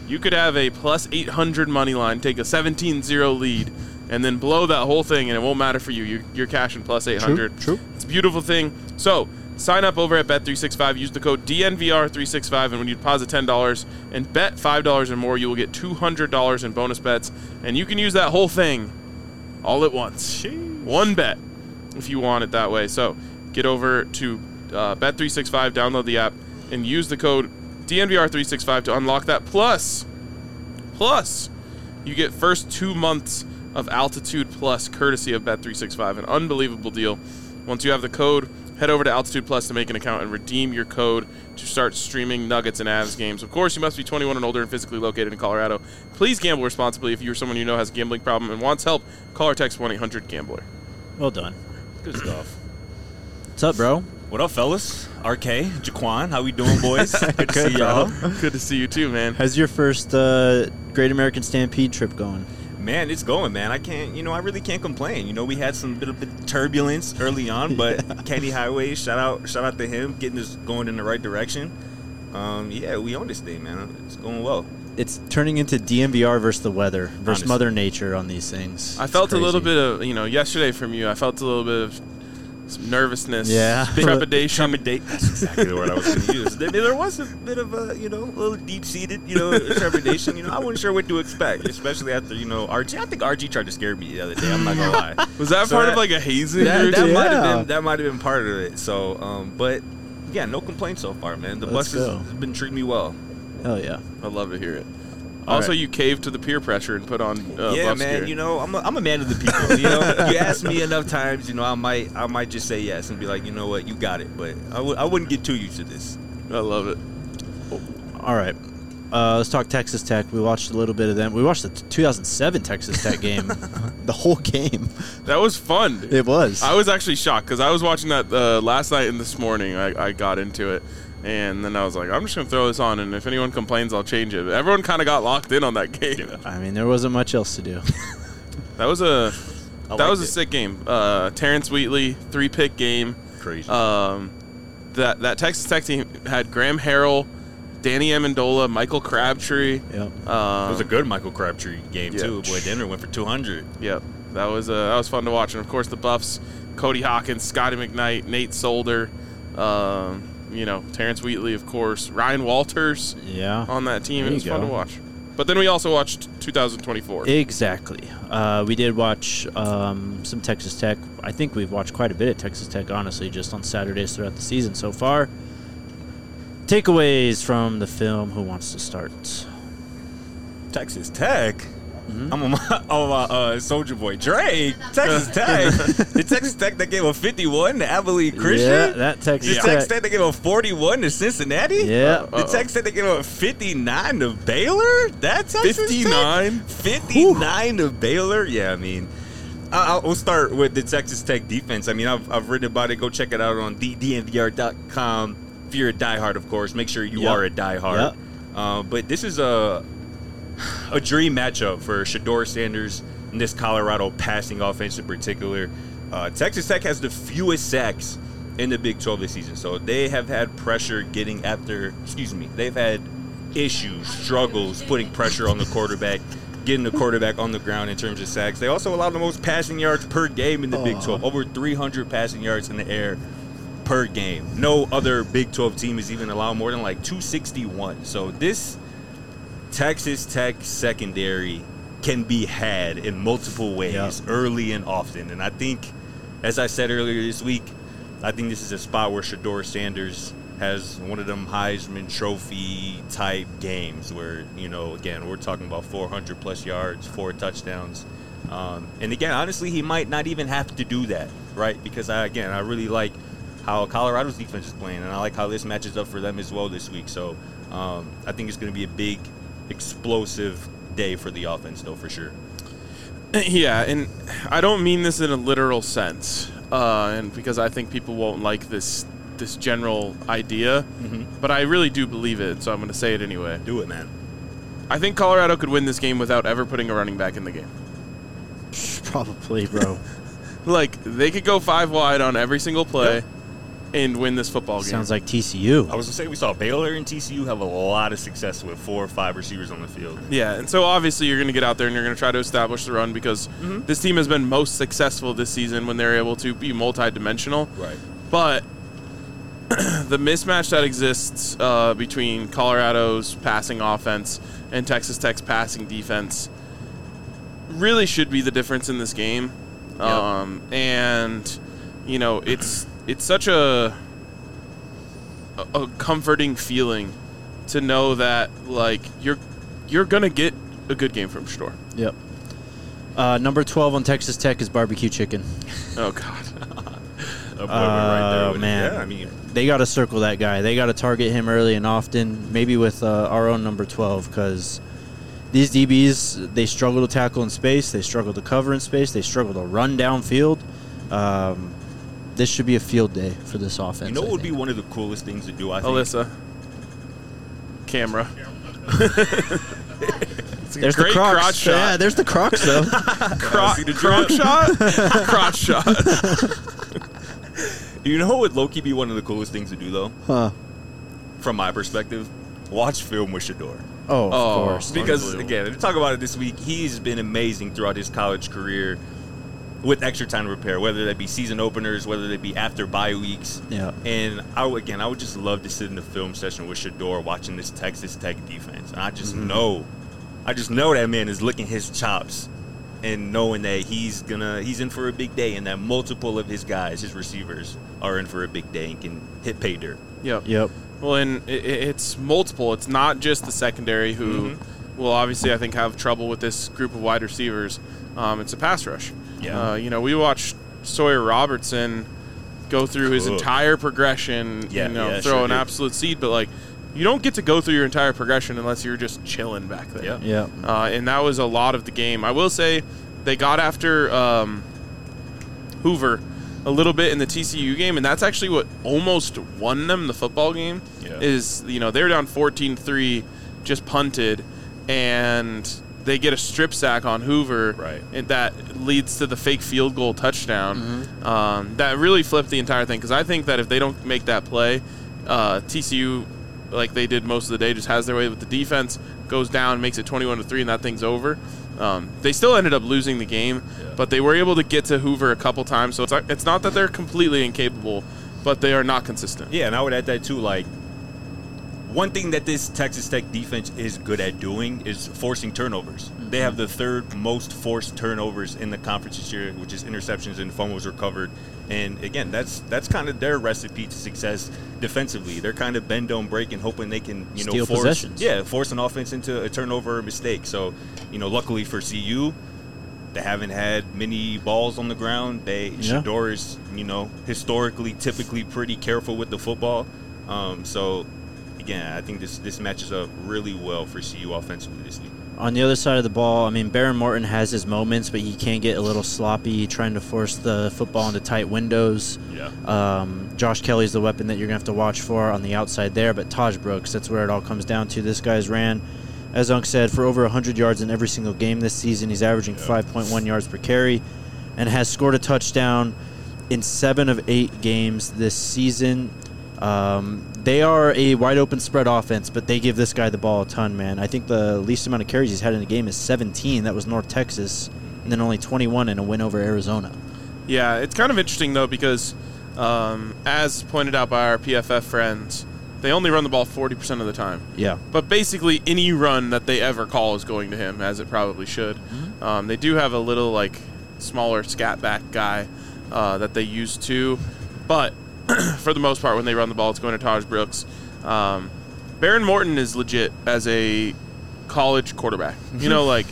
Speaker 1: you could have a plus eight hundred money line, take a seventeen zero lead, and then blow that whole thing, and it won't matter for you. You're, you're cashing plus eight hundred.
Speaker 3: True, true.
Speaker 1: It's a beautiful thing. So sign up over at Bet three sixty-five. Use the code D N V R three sixty-five, and when you deposit ten dollars and bet five dollars or more, you will get two hundred dollars in bonus bets, and you can use that whole thing all at once.
Speaker 5: Sheesh.
Speaker 1: One bet if you want it that way. So get over to uh, Bet three sixty-five, download the app, and use the code D N V R three sixty-five to unlock that. Plus, plus, you get first two months of Altitude Plus courtesy of Bet three sixty-five. An unbelievable deal. Once you have the code, head over to Altitude Plus to make an account and redeem your code to start streaming Nuggets and Avs games. Of course, you must be twenty-one and older and physically located in Colorado. Please gamble responsibly. If you or someone you know has a gambling problem and wants help, call or text one eight hundred gambler.
Speaker 3: Well done.
Speaker 5: Good stuff.
Speaker 3: What's up, bro?
Speaker 5: What up, fellas? R K, Jaquan, how we doing, boys? Good to see y'all.
Speaker 1: Good to see you too, man.
Speaker 3: How's your first uh, Great American Stampede trip going?
Speaker 5: Man, it's going, man. I can't, you know, I really can't complain. You know, we had some bit of bit turbulence early on, but Candy Highway, shout out, shout out to him, getting us going in the right direction. Um, yeah, we own this thing, man. It's going well.
Speaker 3: It's turning into D M V R versus the weather versus
Speaker 5: Honestly.
Speaker 3: Mother Nature on these things.
Speaker 1: I
Speaker 3: It's
Speaker 1: felt a little
Speaker 3: crazy.
Speaker 1: bit of, you know, yesterday from you, I felt a little bit of some nervousness,
Speaker 3: Yeah.
Speaker 1: trepidation.
Speaker 5: Trepidate. That's exactly the word I was going to use. There, there was a bit of a, you know, a little deep-seated, you know, trepidation. You know, I wasn't sure what to expect, especially after, you know, R G. I think R G tried to scare me the other day. I'm not gonna lie.
Speaker 1: Was that
Speaker 5: So
Speaker 1: part
Speaker 5: that-
Speaker 1: of like a hazing?
Speaker 5: That,
Speaker 1: or
Speaker 5: that
Speaker 1: something?
Speaker 5: might have
Speaker 3: Yeah.
Speaker 5: been that might have been part of it. So, um, but yeah, no complaints so far, man. The
Speaker 3: Let's
Speaker 5: bus has,
Speaker 3: go.
Speaker 5: has been treating me well.
Speaker 3: Hell yeah.
Speaker 1: I'd love to hear it.
Speaker 3: All
Speaker 1: Also,
Speaker 3: right.
Speaker 1: you caved to the peer pressure and put on uh,
Speaker 5: yeah,
Speaker 1: buff
Speaker 5: man.
Speaker 1: gear.
Speaker 5: You know, I'm a, I'm a man of the people. You know, you ask me enough times, you know, I might I might just say yes and be like, you know what, you got it. But I w- I wouldn't get too used to this.
Speaker 1: I love it.
Speaker 3: All right. Uh, let's talk Texas Tech. We watched a little bit of them. We watched the t- two thousand seven Texas Tech game. The whole game.
Speaker 1: That was fun.
Speaker 3: It was.
Speaker 1: I was actually shocked because I was watching that uh, last night and this morning. I, I got into it, and then I was like, I'm just gonna throw this on, and if anyone complains, I'll change it. But everyone kind of got locked in on that game.
Speaker 3: I mean, there wasn't much else to do.
Speaker 1: That was a
Speaker 5: I
Speaker 1: that was
Speaker 5: liked
Speaker 1: a
Speaker 5: it.
Speaker 1: sick game. Uh, Terrence Wheatley three pick game.
Speaker 5: Crazy.
Speaker 1: Um, that that Texas Tech team had Graham Harrell, Danny Amendola, Michael Crabtree.
Speaker 3: Yep.
Speaker 1: Um,
Speaker 5: it was a good Michael Crabtree game
Speaker 1: yeah.
Speaker 5: too. Boy, Denver went for two hundred.
Speaker 1: Yep, that was uh, that was fun to watch, and of course the Buffs, Cody Hawkins, Scotty McKnight, Nate Solder, um, you know, Terrence Wheatley, of course, Ryan Walters
Speaker 3: Yeah.
Speaker 1: on that team.
Speaker 3: There
Speaker 1: It was
Speaker 3: you
Speaker 1: fun
Speaker 3: go.
Speaker 1: to watch. But then we also watched two thousand twenty-four.
Speaker 3: Exactly. Uh, we did watch um, some Texas Tech. I think we've watched quite a bit of Texas Tech, honestly, just on Saturdays throughout the season so far. Takeaways from the film. Who wants to start?
Speaker 5: Texas Tech.
Speaker 3: Mm-hmm.
Speaker 5: I'm on my, on my uh, Soldier Boy Drake. Texas Tech. The Texas Tech that gave a fifty-one to Abilene Christian.
Speaker 3: Yeah, that Texas
Speaker 5: The
Speaker 3: Tech.
Speaker 5: Texas Tech that gave a forty-one to Cincinnati.
Speaker 3: Yeah.
Speaker 5: The Texas Tech that gave a fifty-nine to Baylor. That Texas
Speaker 1: fifty-nine?
Speaker 5: Tech? fifty-nine to Baylor. Yeah, I mean, I- I'll start with the Texas Tech defense. I mean, I've, I've written about it. Go check it out on D N V R dot com. If you're a diehard, of course, make sure you
Speaker 3: Yep.
Speaker 5: are a diehard.
Speaker 3: Yep.
Speaker 5: Uh, but this is a a dream matchup for Shedeur Sanders and this Colorado passing offense in particular. Uh, Texas Tech has the fewest sacks in the Big twelve this season, so they have had pressure getting after, excuse me, they've had issues, struggles putting pressure on the quarterback, getting the quarterback on the ground in terms of sacks. They also allow the most passing yards per game in the Big twelve, over three hundred passing yards in the air per game. No other Big twelve team is even allowed more than like two sixty-one. So this Texas Tech secondary can be had in multiple ways,
Speaker 3: Yep.
Speaker 5: early and often. And I think, as I said earlier this week, I think this is a spot where Shedeur Sanders has one of them Heisman Trophy type games where, you know, again, we're talking about four hundred plus yards, four touchdowns. Um, and again, honestly, he might not even have to do that, right? Because, I, again, I really like how Colorado's defense is playing, and I like how this matches up for them as well this week. So um, I think it's going to be a big, explosive day for the offense, though, for sure.
Speaker 1: Yeah, and I don't mean this in a literal sense, uh, and because I think people won't like this this general idea,
Speaker 5: Mm-hmm.
Speaker 1: but I really do believe it, so I'm going to say it anyway.
Speaker 5: Do it, man.
Speaker 1: I think Colorado could win this game without ever putting a running back in the game.
Speaker 3: Probably, bro.
Speaker 1: Like, they could go five wide on every single play, and win this football game.
Speaker 3: Sounds like T C U.
Speaker 5: I was gonna say we saw Baylor and T C U have a lot of success with four or five receivers on the field.
Speaker 1: Yeah, and so obviously you're going to get out there and you're going to try to establish the run because
Speaker 5: Mm-hmm.
Speaker 1: this team has been most successful this season when they're able to be multidimensional.
Speaker 5: Right.
Speaker 1: But the mismatch that exists uh, between Colorado's passing offense and Texas Tech's passing defense really should be the difference in this game.
Speaker 5: Yep.
Speaker 1: Um, and, you know, it's it's such a, a a comforting feeling to know that, like, you're you're going to get a good game from Shador.
Speaker 3: Yep. Uh, number twelve on Texas Tech is barbecue chicken.
Speaker 1: Oh, God.
Speaker 5: A boy went right there
Speaker 3: Oh,
Speaker 5: with it.
Speaker 3: man.
Speaker 5: Yeah, I mean,
Speaker 3: They got to circle that guy. They got to target him early and often, maybe with uh, our own number twelve, because these D Bs, they struggle to tackle in space. They struggle to cover in space. They struggle to run downfield. Um, this should be a field day for this offense.
Speaker 5: you know
Speaker 3: I
Speaker 5: what would be
Speaker 3: think.
Speaker 5: one of the coolest things to do, I think?
Speaker 1: Alyssa. Camera. It's a
Speaker 3: There's
Speaker 1: great
Speaker 3: the Crocs.
Speaker 1: crotch shot.
Speaker 3: Yeah, there's the Crocs, though.
Speaker 1: Cro-
Speaker 5: See the
Speaker 1: croc
Speaker 5: drip?
Speaker 1: shot? Crotch shot.
Speaker 5: You know what would low-key be one of the coolest things to do, though?
Speaker 3: Huh.
Speaker 5: From my perspective? Watch film with Shador.
Speaker 3: Oh, of
Speaker 1: Oh,
Speaker 3: course.
Speaker 5: Because,
Speaker 1: Unbelievable.
Speaker 5: again, to talk about it this week, he's been amazing throughout his college career with extra time to prepare, whether that be season openers, whether that be after bye weeks.
Speaker 3: Yeah.
Speaker 5: And, I would, again, I would just love to sit in the film session with Shador watching this Texas Tech defense. And I just
Speaker 3: Mm-hmm.
Speaker 5: know, I just know that man is licking his chops and knowing that he's gonna he's in for a big day and that multiple of his guys, his receivers, are in for a big day and can hit pay dirt.
Speaker 1: Yep.
Speaker 3: Yep.
Speaker 1: Well, and it, it's multiple. It's not just the secondary who
Speaker 5: Mm-hmm.
Speaker 1: will obviously, I think, have trouble with this group of wide receivers. Um, it's a pass rush.
Speaker 5: Yeah.
Speaker 1: Uh, you know, we watched Sawyer Robertson go through his
Speaker 5: Cool.
Speaker 1: entire progression,
Speaker 5: Yeah,
Speaker 1: you know,
Speaker 5: yeah,
Speaker 1: throw
Speaker 5: sure
Speaker 1: an
Speaker 5: did.
Speaker 1: absolute seed, but, like, you don't get to go through your entire progression unless you're just chilling back there.
Speaker 5: Yeah.
Speaker 3: Yep.
Speaker 1: Uh, and that was a lot of the game. I will say they got after um, Hoover a little bit in the T C U game, and that's actually what almost won them the football game.
Speaker 5: Yeah.
Speaker 1: Is, you know, they were down fourteen three, just punted, and they get a strip sack on Hoover,
Speaker 5: Right.
Speaker 1: and that leads to the fake field goal touchdown.
Speaker 3: Mm-hmm.
Speaker 1: Um, that really flipped the entire thing, because I think that if they don't make that play, uh, T C U, like they did most of the day, just has their way with the defense, goes down, makes it twenty-one to three, and that thing's over. Um, they still ended up losing the game,
Speaker 5: Yeah.
Speaker 1: but they were able to get to Hoover a couple times. So it's not, it's not that they're completely incapable, but they are not consistent.
Speaker 5: Yeah, and I would add that too. Like, one thing that this Texas Tech defense is good at doing is forcing turnovers. They have the third most forced turnovers in the conference this year, which is interceptions and fumbles recovered. And again, that's that's kind of their recipe to success defensively. They're kind of bend don't break and hoping they can, you know,
Speaker 3: Steal
Speaker 5: force
Speaker 3: possessions.
Speaker 5: yeah, force an offense into a turnover or mistake. So, you know, luckily for C U, they haven't had many balls on the ground. They
Speaker 3: Yeah.
Speaker 5: Shador is, you know, historically, typically pretty careful with the football. Um, so, again, I think this this matches up really well for C U offensively this week.
Speaker 3: On the other side of the ball, I mean, Baron Morton has his moments, but he can get a little sloppy trying to force the football into tight windows.
Speaker 5: Yeah.
Speaker 3: Um, Josh Kelly's the weapon that you're going to have to watch for on the outside there, but Taj Brooks, that's where it all comes down to. This guy's ran, as Unc said, for over one hundred yards in every single game this season. He's averaging five point one yards per carry and has scored a touchdown in seven of eight games this season. Um, they are a wide-open spread offense, but they give this guy the ball a ton, man. I think the least amount of carries he's had in a game is seventeen. That was North Texas, and then only twenty-one in a win over Arizona.
Speaker 1: Yeah, it's kind of interesting, though, because um, as pointed out by our P F F friends, they only run the ball forty percent of the time.
Speaker 3: Yeah.
Speaker 1: But basically, any run that they ever call is going to him, as it probably should. Um, they do have a little, like, smaller scat back guy uh, that they use too. But for the most part, when they run the ball, it's going to Taj Brooks. Um, Baron Morton is legit as a college quarterback. You know, like,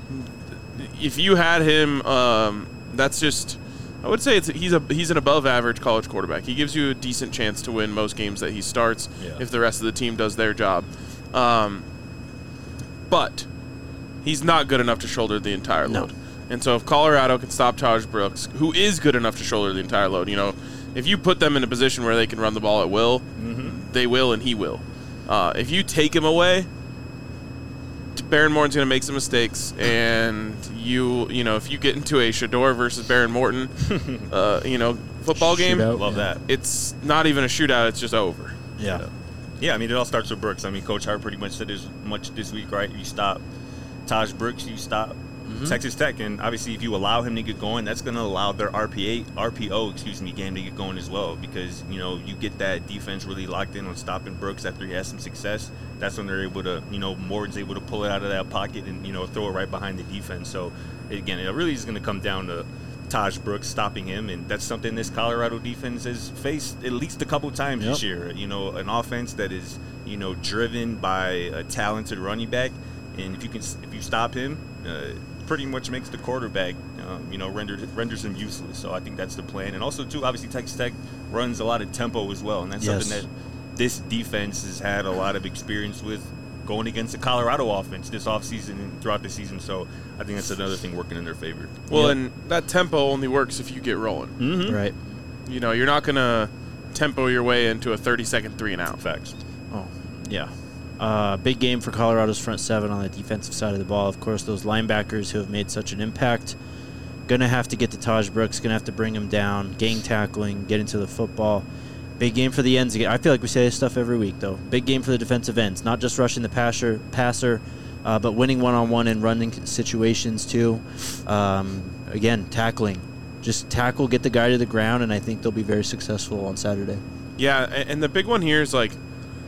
Speaker 1: if you had him, um, that's just, I would say it's he's a he's an above average college quarterback. He gives you a decent chance to win most games that he starts
Speaker 5: Yeah.
Speaker 1: if the rest of the team does their job. Um, but he's not good enough to shoulder the entire
Speaker 3: No.
Speaker 1: load. And so if Colorado can stop Taj Brooks, who is good enough to shoulder the entire load, you know, if you put them in a position where they can run the ball at will, they will and he will. Uh, if you take him away, Baron Morton's going to make some mistakes, and you, you know, if you get into a Shador versus Baron Morton, uh, you know, football game,
Speaker 3: Shootout.
Speaker 5: Love that.
Speaker 1: it's not even a shootout. It's just over.
Speaker 3: Yeah.
Speaker 5: Yeah, I mean, it all starts with Brooks. I mean, Coach Hart pretty much said as much this week, right? You stop Taj Brooks, you stop
Speaker 3: Mm-hmm.
Speaker 5: Texas Tech, and obviously, if you allow him to get going, that's going to allow their R P A, R P O, excuse me, game to get going as well. Because you know, you get that defense really locked in on stopping Brooks after he has some success. That's when they're able to, you know, Morton's able to pull it out of that pocket and you know throw it right behind the defense. So again, it really is going to come down to Taj Brooks stopping him, and that's something this Colorado defense has faced at least a couple times
Speaker 3: Yep.
Speaker 5: this year. You know, an offense that is you know driven by a talented running back, and if you can, if you stop him, uh, pretty much makes the quarterback, um, you know, rendered renders him useless. So I think that's the plan, and also too, obviously Texas Tech runs a lot of tempo as well, and that's
Speaker 3: Yes.
Speaker 5: something that this defense has had a lot of experience with going against the Colorado offense this offseason and throughout the season. So I think that's another thing working in their favor.
Speaker 1: Well,
Speaker 3: Yep.
Speaker 1: and that tempo only works if you get rolling.
Speaker 5: Mm-hmm.
Speaker 3: Right.
Speaker 1: You know, you're not gonna tempo your way into a thirty-second three and out.
Speaker 5: Facts.
Speaker 3: Oh, yeah. Uh, big game for Colorado's front seven on the defensive side of the ball. Of course, those linebackers who have made such an impact. Going to have to get to Taj Brooks. Going to have to bring him down. Gang tackling. Get into the football. Big game for the ends again. I feel like we say this stuff every week, though. Big game for the defensive ends. Not just rushing the passer, passer uh, but winning one-on-one and running situations, too. Um, again, tackling. Just tackle, get the guy to the ground, and I think they'll be very successful on Saturday.
Speaker 1: Yeah, a- and the big one here is like,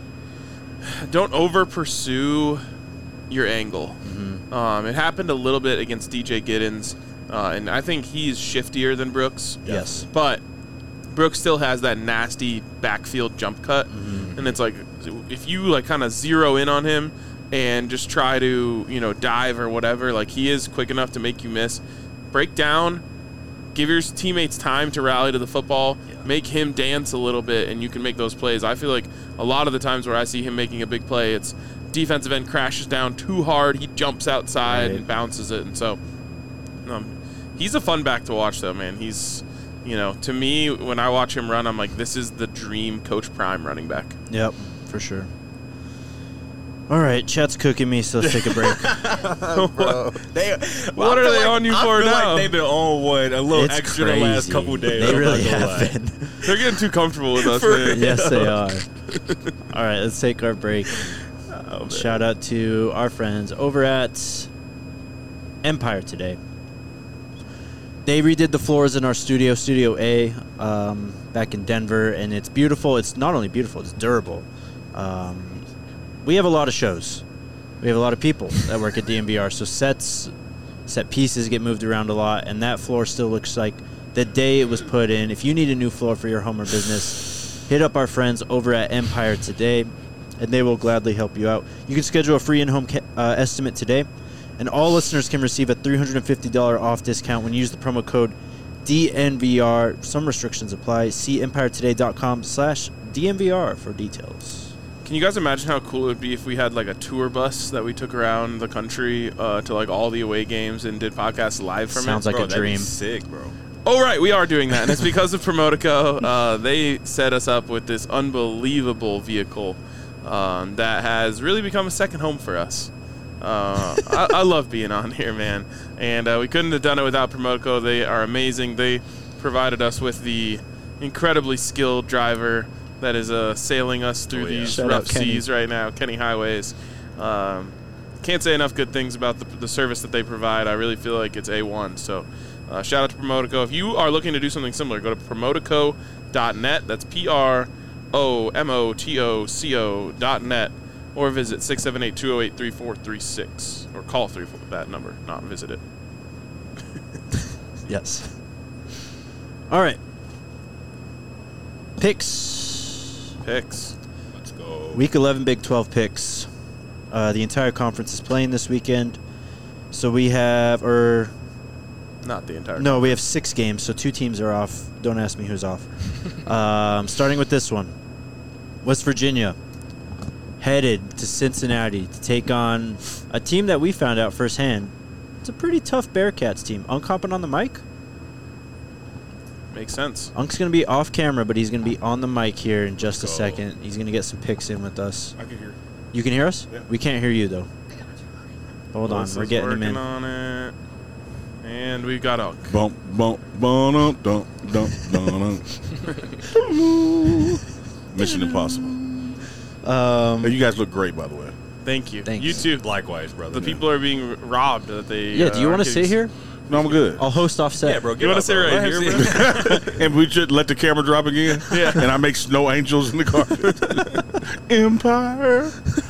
Speaker 1: don't over pursue your angle.
Speaker 3: Mm-hmm.
Speaker 1: Um, it happened a little bit against D J Giddens, uh, and I think he's shiftier than Brooks.
Speaker 3: Yes.
Speaker 1: But Brooks still has that nasty backfield jump cut,
Speaker 3: Mm-hmm.
Speaker 1: and it's like if you like kind of zero in on him and just try to you know dive or whatever, like he is quick enough to make you miss. Break down, give your teammates time to rally to the football,
Speaker 5: Yeah.
Speaker 1: make him dance a little bit, and you can make those plays. I feel like a lot of the times where I see him making a big play, it's defensive end crashes down too hard, he jumps outside
Speaker 3: Right.
Speaker 1: and bounces it, and so um, he's a fun back to watch, though, man. He's, you know, to me, when I watch him run, I'm like, this is the dream Coach Prime running back.
Speaker 3: Yep, for sure. All right, chat's cooking me, so let's take a break.
Speaker 5: Bro. They,
Speaker 1: What
Speaker 5: I
Speaker 1: are
Speaker 5: feel
Speaker 1: they
Speaker 5: like-
Speaker 1: on you
Speaker 5: I
Speaker 1: for
Speaker 5: feel
Speaker 1: now?
Speaker 5: Like they've been on one a little
Speaker 3: It's
Speaker 5: extra
Speaker 3: crazy.
Speaker 5: the last couple days.
Speaker 3: They
Speaker 5: I'm
Speaker 3: really
Speaker 5: not gonna lie.
Speaker 3: have been.
Speaker 1: They're getting too comfortable with us,
Speaker 5: For
Speaker 1: man.
Speaker 3: Yes, they are. All right, let's take our break.
Speaker 5: Oh, man.
Speaker 3: Shout out to our friends over at Empire today. They redid the floors in our studio, Studio A, um, back in Denver, and it's beautiful. It's not only beautiful, it's durable. Um, we have a lot of shows. We have a lot of people that work at D M V R, so sets, set pieces get moved around a lot, and that floor still looks like the day it was put in. If you need a new floor for your home or business, hit up our friends over at Empire today, and they will gladly help you out. You can schedule a free in-home ca- uh, estimate today, and all listeners can receive a three hundred fifty dollars off discount when you use the promo code D N V R. Some restrictions apply. See empire today dot com slash D N V R for details.
Speaker 1: Can you guys imagine how cool it would be if we had like a tour bus that we took around the country uh, to like all the away games and did podcasts live from
Speaker 3: Sounds
Speaker 1: it?
Speaker 3: like
Speaker 5: Bro,
Speaker 3: a
Speaker 5: that'd be
Speaker 3: dream.
Speaker 5: sick, bro.
Speaker 1: Oh, right, we are doing that, and it's because of Promotico. Uh, they set us up with this unbelievable vehicle um, that has really become a second home for us. Uh, I, I love being on here, man, and uh, we couldn't have done it without Promotico. They are amazing. They provided us with the incredibly skilled driver that is uh, sailing us through
Speaker 5: Oh, yeah.
Speaker 1: these
Speaker 3: Shout
Speaker 1: rough
Speaker 3: out Kenny.
Speaker 1: seas right now, Kenny Highways. Um, can't say enough good things about the, the service that they provide. I really feel like it's A one. So uh, shout out to Promotico. If you are looking to do something similar, go to promotico dot net. That's P R O M O T O C O dot net. Or visit six seven eight, two zero eight, three four three six. Or call three four that number, not visit it.
Speaker 3: Yes. All right. Picks.
Speaker 1: Picks.
Speaker 5: Let's go.
Speaker 3: Week eleven Big twelve picks. Uh, the entire conference is playing this weekend. So we have, or
Speaker 1: Not the entire.
Speaker 3: no, we have six games, so two teams are off. Don't ask me who's off. um, starting with this one. West Virginia headed to Cincinnati to take on a team that we found out firsthand. It's a pretty tough Bearcats team. Unk hopping on the mic?
Speaker 1: Makes sense.
Speaker 3: Unk's going to be off camera, but he's going to be on the mic here in just a
Speaker 5: Go.
Speaker 3: second. He's going to get some picks in with us.
Speaker 2: I can hear.
Speaker 3: You can hear us?
Speaker 2: Yeah.
Speaker 3: We can't hear you, though. Hold on.
Speaker 1: Melissa's
Speaker 3: We're getting him
Speaker 1: working
Speaker 3: in.
Speaker 1: on it. And we've got a
Speaker 2: Bump, bump, bum, dum, dum, dum, dum. Mission Impossible.
Speaker 3: Um,
Speaker 2: Hey, you guys look great, by the way.
Speaker 1: thank you.
Speaker 3: Thanks.
Speaker 1: You too.
Speaker 5: Likewise, brother.
Speaker 1: The people are being robbed that they.
Speaker 3: yeah, do you
Speaker 1: uh,
Speaker 3: want to
Speaker 1: are
Speaker 3: sit
Speaker 1: getting-
Speaker 3: here?
Speaker 2: No, I'm good.
Speaker 3: I'll host offset.
Speaker 5: Yeah, bro.
Speaker 1: You want to sit right
Speaker 5: Let him
Speaker 1: here,
Speaker 5: sit.
Speaker 1: bro?
Speaker 2: And we should let the camera drop again.
Speaker 1: Yeah.
Speaker 2: And I make snow angels in the car. Empire.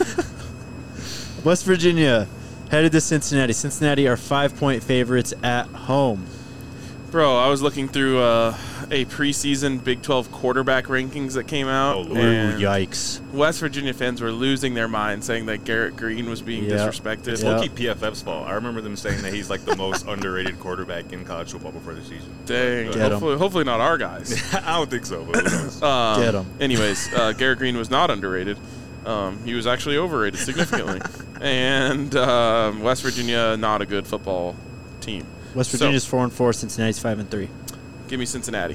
Speaker 3: West Virginia headed to Cincinnati. Cincinnati are five-point favorites at home.
Speaker 1: Bro, I was looking through uh, a preseason Big twelve quarterback rankings that came out.
Speaker 5: Oh, Lord.
Speaker 1: and
Speaker 3: Yikes.
Speaker 1: West Virginia fans were losing their minds saying that Garrett Green was being
Speaker 3: Yeah.
Speaker 1: disrespected.
Speaker 5: It's
Speaker 3: Yeah.
Speaker 5: low-key P F F's fault. I remember them saying that he's like the most underrated quarterback in college football before the season.
Speaker 1: Dang.
Speaker 5: But,
Speaker 3: Get 'em.
Speaker 1: Hopefully, hopefully not our guys.
Speaker 5: I don't think so, but who knows?
Speaker 1: Um,
Speaker 3: Get 'em.
Speaker 1: Anyways, uh, Garrett Green was not underrated. Um, he was actually overrated significantly. and um, West Virginia, not a good football team.
Speaker 3: West
Speaker 1: So-
Speaker 3: Virginia's four and four. Cincinnati's five and three.
Speaker 1: Give me Cincinnati.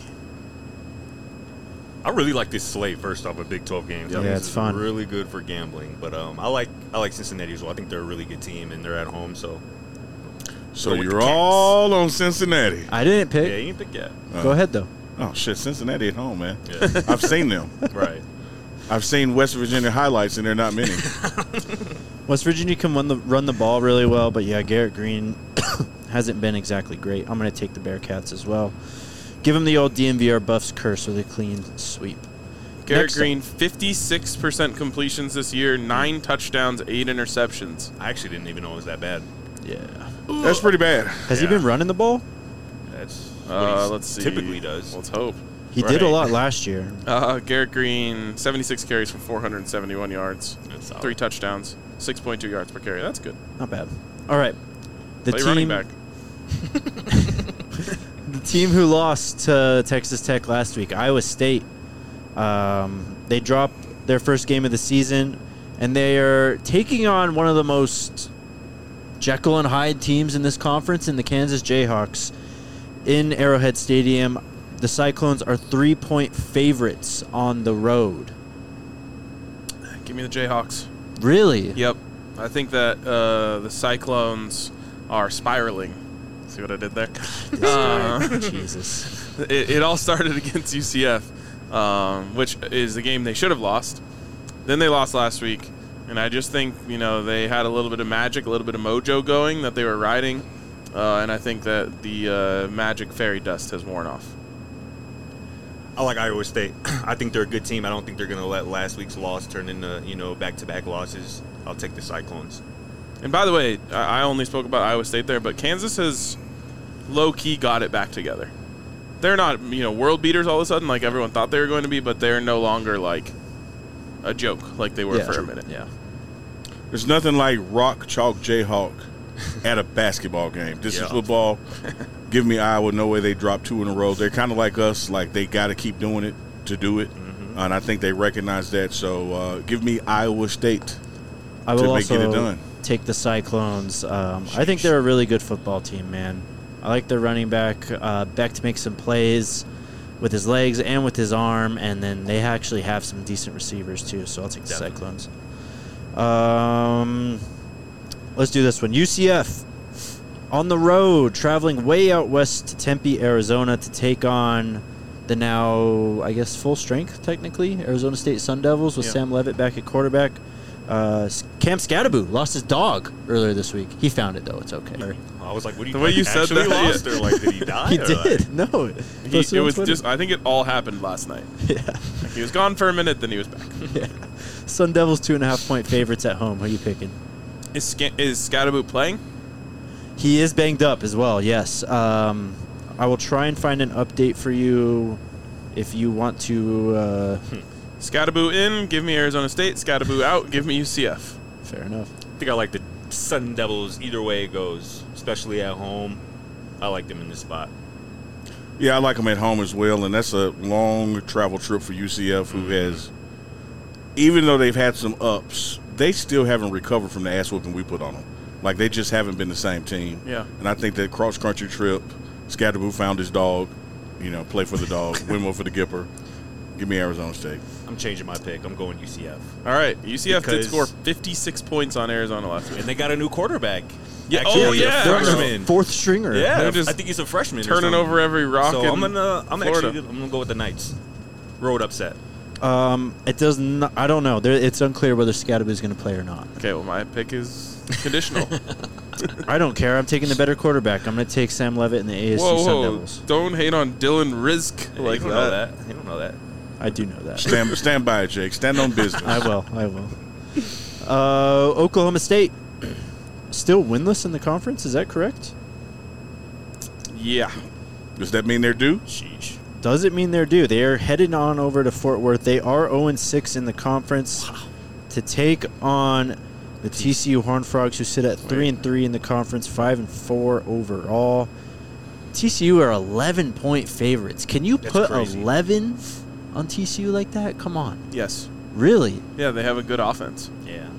Speaker 5: I really like this slate. First off, of Big twelve games. I
Speaker 3: Yeah,
Speaker 5: think
Speaker 3: it's
Speaker 5: this is
Speaker 3: fun.
Speaker 5: Really good for gambling. But um, I like I like Cincinnati as well. I think they're a really good team and they're at home. So
Speaker 2: So
Speaker 5: Go with
Speaker 2: you're
Speaker 5: the Cats.
Speaker 2: all on Cincinnati.
Speaker 3: I didn't
Speaker 5: yeah,
Speaker 3: pick.
Speaker 5: you ain't pick yet.
Speaker 3: Go ahead, though.
Speaker 2: Oh, shit. Cincinnati at home, man.
Speaker 5: Yeah.
Speaker 2: I've seen them.
Speaker 5: Right.
Speaker 2: I've seen West Virginia highlights, and they're not many.
Speaker 3: West Virginia can run the, run the ball really well, but, yeah, Garrett Green hasn't been exactly great. I'm going to take the Bearcats as well. Give him the old D M V R Buffs curse with a clean sweep.
Speaker 1: Garrett
Speaker 3: Next up.
Speaker 1: Green, fifty-six percent completions this year, nine touchdowns, eight interceptions.
Speaker 5: I actually didn't even know it was that bad.
Speaker 3: Yeah.
Speaker 2: That's pretty bad.
Speaker 3: Has he
Speaker 5: Yeah.
Speaker 3: been running the ball?
Speaker 5: That's what
Speaker 1: Uh,
Speaker 5: he
Speaker 1: let's see.
Speaker 5: typically does.
Speaker 1: Let's hope.
Speaker 3: He did a
Speaker 5: Right.
Speaker 3: lot last year.
Speaker 1: Uh, Garrett Green, seventy-six carries for four hundred seventy-one yards,
Speaker 5: That's solid.
Speaker 1: three touchdowns, six point two yards per carry. That's good.
Speaker 3: Not bad. All right. The
Speaker 1: Play
Speaker 3: team,
Speaker 1: running back.
Speaker 3: the team who lost to Texas Tech last week, Iowa State, um, they dropped their first game of the season, and they are taking on one of the most Jekyll and Hyde teams in this conference, in the Kansas Jayhawks, in Arrowhead Stadium. The Cyclones are three-point favorites on the road.
Speaker 1: Give me the Jayhawks.
Speaker 3: Really?
Speaker 1: Yep. I think that uh, the Cyclones are spiraling. See what I did there? Uh,
Speaker 3: Jesus.
Speaker 1: it, it all started against U C F, um, which is the game they should have lost. Then they lost last week, and I just think you know they had a little bit of magic, a little bit of mojo going that they were riding, uh, and I think that the uh, magic fairy dust has worn off.
Speaker 5: I like Iowa State. I think they're a good team. I don't think they're going to let last week's loss turn into, you know, back-to-back losses. I'll take the Cyclones.
Speaker 1: And by the way, I I only spoke about Iowa State there, but Kansas has low-key got it back together. They're not, you know, world beaters all of a sudden like everyone thought they were going to be, but they're no longer like a joke like they were
Speaker 3: Yeah.
Speaker 1: for
Speaker 3: True.
Speaker 1: a minute.
Speaker 3: Yeah.
Speaker 2: There's nothing like rock, chalk, Jayhawk at a basketball game. This
Speaker 5: Yeah.
Speaker 2: is football. Give me Iowa. No way they drop two in a row. They're kind of like us. Like, they got to keep doing it to do it.
Speaker 5: Mm-hmm.
Speaker 2: Uh, and I think they recognize that. So uh, give me Iowa State.
Speaker 3: I will
Speaker 2: to make
Speaker 3: also
Speaker 2: it done.
Speaker 3: take the Cyclones. Um, I think they're a really good football team, man. I like their running back. Uh, Beck to make some plays with his legs and with his arm, and then they actually have some decent receivers too. So I'll take the
Speaker 5: Definitely.
Speaker 3: Cyclones. Um, let's do this one. U C F on the road, traveling way out west to Tempe, Arizona, to take on the now, I guess, full strength technically Arizona State Sun Devils with
Speaker 1: Yeah.
Speaker 3: Sam Levitt back at quarterback. Uh, Cam Scadaboo lost his dog earlier this week. He found it though. It's okay.
Speaker 5: I was like, what do you
Speaker 1: The way you said
Speaker 5: actually
Speaker 1: that,
Speaker 5: lost
Speaker 1: yeah.
Speaker 5: or like, did he die?
Speaker 3: He
Speaker 5: or,
Speaker 3: did.
Speaker 5: Like,
Speaker 3: No.
Speaker 1: He,
Speaker 3: Posted
Speaker 1: it
Speaker 3: on
Speaker 1: was
Speaker 3: Twitter.
Speaker 1: just I think it all happened last night.
Speaker 3: Yeah.
Speaker 1: Like he was gone for a minute, then he was back.
Speaker 3: Yeah. Sun Devils two and a half point favorites at home. Who are you picking?
Speaker 1: Is Sca- is Scadaboo playing?
Speaker 3: He is banged up as well. Yes. Um, I will try and find an update for you if you want to. Uh,
Speaker 1: Scadaboo in, give me Arizona State. Scadaboo out, give me U C F.
Speaker 3: fair enough.
Speaker 5: I think I like the Sun Devils either way it goes, especially at home. I like them in this spot.
Speaker 2: Yeah, I like them at home as well. And that's a long travel trip for U C F, who has, even though they've had some ups, they still haven't recovered from the ass whooping we put on them. Like, they just haven't been the same team.
Speaker 1: Yeah.
Speaker 2: And I think that cross-country trip, Scadaboo found his dog, you know, play for the dog, win one for the Gipper. Give me Arizona State.
Speaker 5: I'm changing my pick. I'm going U C F.
Speaker 1: All right, U C F did
Speaker 5: Because-
Speaker 1: score fifty-six points on Arizona last week.
Speaker 5: And they got a new quarterback.
Speaker 1: Yeah,
Speaker 5: Actually,
Speaker 1: oh,
Speaker 5: he's a
Speaker 1: yeah.
Speaker 5: freshman.
Speaker 3: Fourth stringer.
Speaker 5: Yeah,
Speaker 1: They're just
Speaker 5: I think he's a freshman. or
Speaker 1: turning
Speaker 5: something.
Speaker 1: over every rock
Speaker 5: So
Speaker 1: in
Speaker 5: I'm gonna, I'm
Speaker 1: Florida.
Speaker 5: actually, I'm gonna go with the Knights. Road upset.
Speaker 3: Um, it does not. I don't know. There, it's unclear whether Scadaboo is going to play or not.
Speaker 1: Okay, well, my pick is conditional.
Speaker 3: I don't care. I'm taking the better quarterback. I'm going to take Sam Levitt and the A S C
Speaker 1: whoa,
Speaker 3: Sun
Speaker 1: whoa.
Speaker 3: Devils.
Speaker 1: Don't hate on Dylan Rizk
Speaker 5: Yeah,
Speaker 1: like
Speaker 5: you don't
Speaker 1: that.
Speaker 5: know that. You don't know that.
Speaker 3: I do know that.
Speaker 2: Stand, stand by it, Jake. Stand on business.
Speaker 3: I will. I will. Uh, Oklahoma State still winless in the conference. Is that correct?
Speaker 1: Yeah.
Speaker 2: Does that mean they're due?
Speaker 5: Sheesh.
Speaker 3: Does it mean they're due? They are headed on over to Fort Worth. They are oh and six in the conference to take on the T C U Horned Frogs, who sit at three and three in the conference, five and four overall. T C U are eleven point favorites. Can you
Speaker 5: That's
Speaker 3: put
Speaker 5: crazy.
Speaker 3: eleven on T C U like that? Come on,
Speaker 1: Yes.
Speaker 3: really?
Speaker 1: Yeah, they have a good offense.
Speaker 5: Yeah.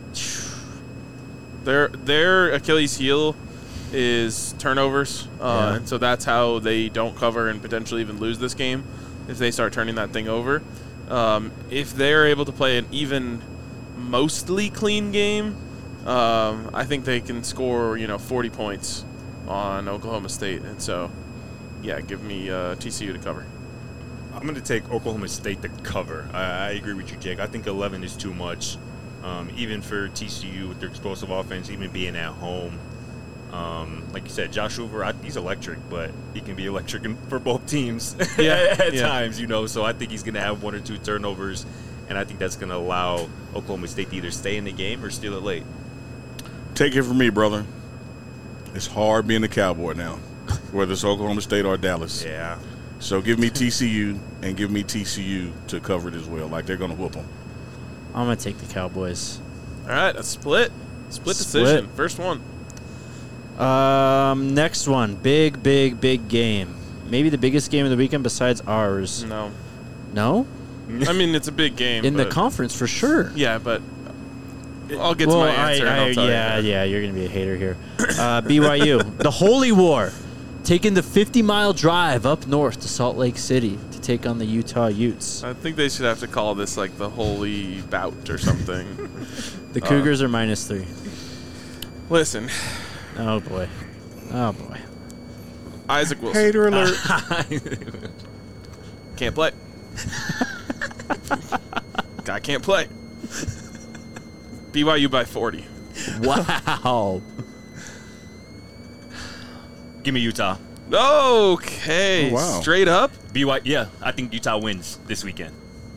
Speaker 1: Their their Achilles heel is turnovers, uh,
Speaker 3: Yeah.
Speaker 1: and so that's how they don't cover and potentially even lose this game if they start turning that thing over. Um, if they're able to play an even mostly clean game, um, I think they can score you know forty points on Oklahoma State, and so yeah, give me uh, T C U to cover.
Speaker 5: I'm going to take Oklahoma State to cover. I, I agree with you, Jake. I think eleven is too much, um, even for T C U with their explosive offense, even being at home. Um, like you said, Josh Hoover, I, he's electric, but he can be electric in, for both teams
Speaker 1: Yeah,
Speaker 5: at
Speaker 1: yeah.
Speaker 5: times, you know. So I think he's going to have one or two turnovers, and I think that's going to allow Oklahoma State to either stay in the game or steal it late.
Speaker 2: Take it from me, brother. It's hard being a Cowboy now, whether it's Oklahoma State or Dallas.
Speaker 5: Yeah.
Speaker 2: So give me T C U and give me T C U to cover it as well. Like they're going to whoop them.
Speaker 3: I'm gonna take the Cowboys.
Speaker 1: All right, a split, split,
Speaker 3: Split.
Speaker 1: decision, first one.
Speaker 3: Um, next one, big, big, big game. Maybe the biggest game of the weekend besides ours.
Speaker 1: No,
Speaker 3: No,
Speaker 1: I mean it's a big game
Speaker 3: in the
Speaker 1: but-
Speaker 3: conference for sure.
Speaker 1: Yeah, but I'll get
Speaker 3: well,
Speaker 1: to my answer.
Speaker 3: I,
Speaker 1: and I'll
Speaker 3: I,
Speaker 1: tell
Speaker 3: yeah,
Speaker 1: you.
Speaker 3: yeah, you're gonna be a hater here. Uh, B Y U, the Holy War, taking the fifty mile drive up north to Salt Lake City to take on the Utah Utes.
Speaker 1: I think they should have to call this like the holy bout or something.
Speaker 3: The Cougars are minus three.
Speaker 1: Listen,
Speaker 3: Oh boy, oh boy.
Speaker 1: Isaac Wilson
Speaker 2: Hater alert.
Speaker 1: can't play. Guy can't play. B Y U by forty.
Speaker 3: Wow.
Speaker 5: Give me Utah.
Speaker 1: Okay,
Speaker 2: Oh, wow.
Speaker 1: straight up.
Speaker 5: B Y, yeah, I think Utah wins this weekend.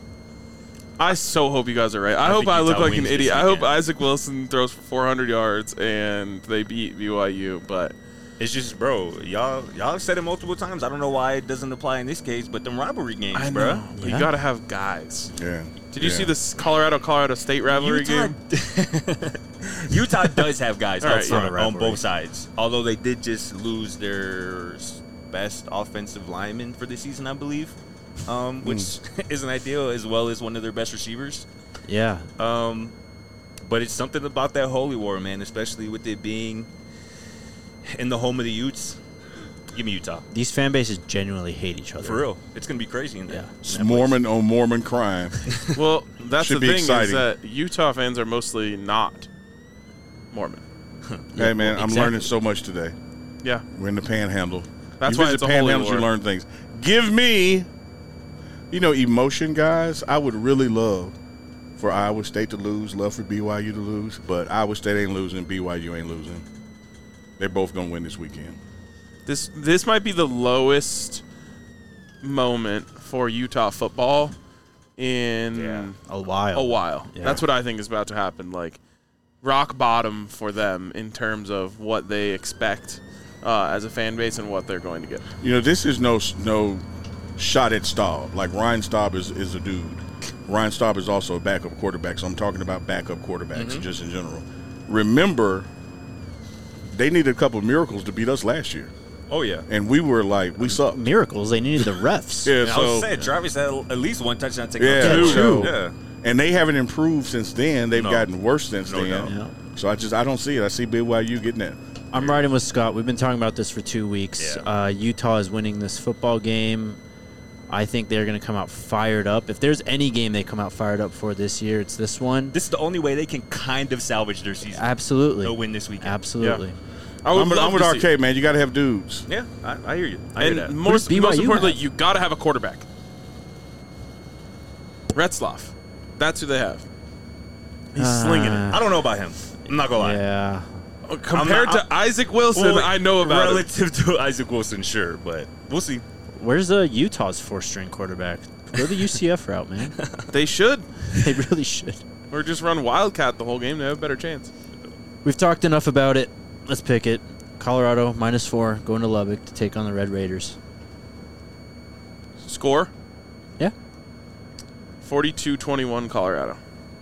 Speaker 1: I so hope you guys are right. I,
Speaker 5: I
Speaker 1: hope
Speaker 5: think
Speaker 1: I look
Speaker 5: Utah
Speaker 1: like an
Speaker 5: wins this
Speaker 1: idiot. I hope
Speaker 5: weekend.
Speaker 1: Isaac Wilson throws for four hundred yards and they beat B Y U. But
Speaker 5: It's just, bro, y'all y'all have said it multiple times. I don't know why it doesn't apply in this case, but them rivalry games,
Speaker 1: I
Speaker 5: bro.
Speaker 1: know
Speaker 3: Yeah.
Speaker 1: you gotta have guys.
Speaker 2: Yeah.
Speaker 1: Did you
Speaker 2: Yeah.
Speaker 1: see this Colorado Colorado State rivalry
Speaker 5: Utah,
Speaker 1: game?
Speaker 5: Utah does have guys
Speaker 1: All
Speaker 5: up
Speaker 1: right,
Speaker 5: front
Speaker 1: yeah.
Speaker 5: on
Speaker 3: Rivalry.
Speaker 5: both sides. Although they did just lose their s- best offensive lineman for the season, I believe, um, which isn't ideal, as well as one of their best receivers.
Speaker 3: Yeah.
Speaker 5: Um, but it's something about that Holy War, man, especially with it being in the home of the Utes. Give me Utah.
Speaker 3: These fan bases genuinely hate each other.
Speaker 5: For real. It's going to be crazy in there.
Speaker 3: Yeah.
Speaker 2: It's Mormon on Mormon crime.
Speaker 1: Well, that's
Speaker 2: Should
Speaker 1: the
Speaker 2: be
Speaker 1: thing
Speaker 2: exciting.
Speaker 1: is that Utah fans are mostly not Mormon.
Speaker 2: Hey, man, I'm
Speaker 3: exactly.
Speaker 2: learning so much today.
Speaker 1: Yeah,
Speaker 2: We're in the Panhandle.
Speaker 1: that's
Speaker 2: you
Speaker 1: why
Speaker 2: visit
Speaker 1: it's a holy
Speaker 2: Panhandles,
Speaker 1: war.
Speaker 2: you learn things. Give me, you know, emotion, guys. I would really love for Iowa State to lose, love for B Y U to lose, but Iowa State ain't losing, B Y U ain't losing. They're both going to win this weekend.
Speaker 1: This this might be the lowest moment for Utah football in
Speaker 5: Yeah.
Speaker 3: A while.
Speaker 1: a while.
Speaker 3: Yeah.
Speaker 1: That's what I think is about to happen. Like rock bottom for them in terms of what they expect uh, as a fan base and what they're going to get.
Speaker 2: You know, this is no no shot at Staub. Like, Ryan Staub is, is a dude. Ryan Staub is also a backup quarterback, so I'm talking about backup quarterbacks
Speaker 1: Mm-hmm.
Speaker 2: just in general. Remember, they needed a couple of miracles to beat us last year.
Speaker 5: Oh, yeah.
Speaker 2: And we were like, we sucked.
Speaker 3: Miracles. They needed the refs.
Speaker 2: Yeah,
Speaker 5: I was
Speaker 2: so,
Speaker 5: saying, Travis had at least one touchdown taken.
Speaker 2: yeah,
Speaker 3: Yeah,
Speaker 2: so-
Speaker 3: true.
Speaker 5: Yeah.
Speaker 2: and they haven't improved since then. They've
Speaker 5: No.
Speaker 2: gotten worse since
Speaker 5: No
Speaker 2: then.
Speaker 5: doubt.
Speaker 3: Yeah.
Speaker 2: So I just I don't see it. I see B Y U getting that.
Speaker 3: I'm riding with Scott. We've been talking about this for two weeks.
Speaker 5: Yeah.
Speaker 3: Uh, Utah is winning this football game. I think they're going to come out fired up. If there's any game they come out fired up for this year, it's this one.
Speaker 5: This is the only way they can kind of salvage their season.
Speaker 3: Absolutely.
Speaker 5: They'll win this weekend.
Speaker 3: Absolutely.
Speaker 1: I would
Speaker 2: I'm, with-
Speaker 1: love
Speaker 2: I'm with
Speaker 1: to see-
Speaker 2: Arcade, man. You got to have dudes.
Speaker 5: Yeah, I, I hear you. I
Speaker 1: And
Speaker 5: hear that.
Speaker 1: most,
Speaker 3: does B Y U
Speaker 1: most importantly,
Speaker 3: have?
Speaker 1: you got to have a quarterback. Retzloff. That's who they have. He's
Speaker 3: Uh,
Speaker 1: slinging it.
Speaker 5: I don't know about him. I'm not gonna lie.
Speaker 3: Yeah.
Speaker 1: Compared
Speaker 5: I'm not-
Speaker 1: to Isaac Wilson,
Speaker 5: Well,
Speaker 1: I know about it.
Speaker 5: relative to Isaac Wilson, sure, but we'll see.
Speaker 3: Where's uh, Utah's four-string quarterback? Go the U C F route, man.
Speaker 1: They should.
Speaker 3: They really should.
Speaker 1: Or just run Wildcat the whole game. They have a better chance.
Speaker 3: We've talked enough about it. Let's pick it. Colorado, minus four, going to Lubbock to take on the Red Raiders.
Speaker 1: Score?
Speaker 3: Yeah.
Speaker 1: forty-two twenty-one Colorado.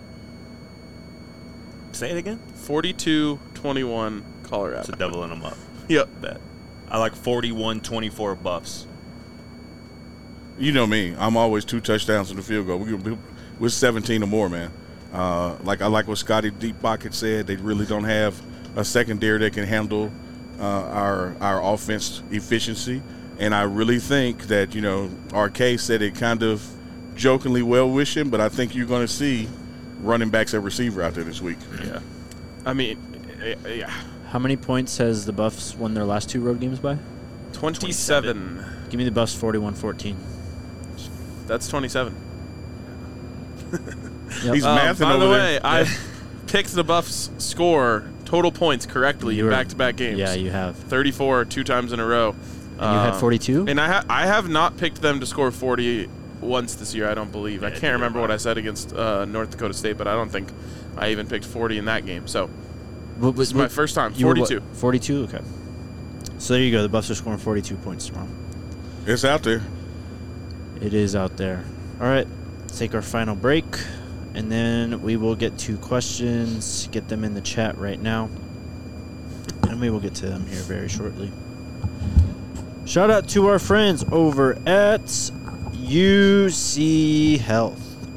Speaker 5: Say it again.
Speaker 1: forty-two twenty-one Colorado.
Speaker 5: It's a doubling them up.
Speaker 1: Yep.
Speaker 5: Bet. I like forty-one twenty-four Buffs.
Speaker 2: You know me. I'm always two touchdowns in the field goal. We, we, we're seventeen or more, man. Uh, like I like what Scotty Deep Pocket said. They really don't have a secondary that can handle uh, our our offense efficiency. And I really think that, you know, Arcade said it kind of jokingly well-wishing, but I think you're going to see running backs at receiver out there this week.
Speaker 1: Yeah. I mean, eh, eh, yeah.
Speaker 3: How many points has the Buffs won their last two road games by?
Speaker 1: twenty-seven.
Speaker 3: Give me the Buffs forty-one fourteen.
Speaker 1: That's twenty-seven.
Speaker 3: Yep.
Speaker 2: He's
Speaker 1: Um,
Speaker 2: mathing
Speaker 1: by
Speaker 2: over
Speaker 1: the
Speaker 2: there.
Speaker 1: way, I've picked the Buffs score total points correctly
Speaker 3: You
Speaker 1: in
Speaker 3: were-
Speaker 1: back-to-back games.
Speaker 3: Yeah, you have.
Speaker 1: thirty-four two times in a row.
Speaker 3: And you had
Speaker 1: Um,
Speaker 3: forty-two?
Speaker 1: And I ha- I have not picked them to score forty once this year. I don't believe. I
Speaker 5: Yeah,
Speaker 1: can't
Speaker 5: neither
Speaker 1: remember
Speaker 5: have
Speaker 1: what
Speaker 5: I.
Speaker 1: I said against uh, North Dakota State, but I don't think I even picked forty in that game. So
Speaker 3: What,
Speaker 1: this is my first time.
Speaker 3: you were what,
Speaker 1: forty-two.
Speaker 3: forty-two? Okay. So there you go. The Buffs are scoring forty-two points tomorrow.
Speaker 2: It's out there.
Speaker 3: It is out there. All right. Let's take our final break, and then we will get to questions. Get them in the chat right now. And we will get to them here very shortly. Shout out to our friends over at U C Health.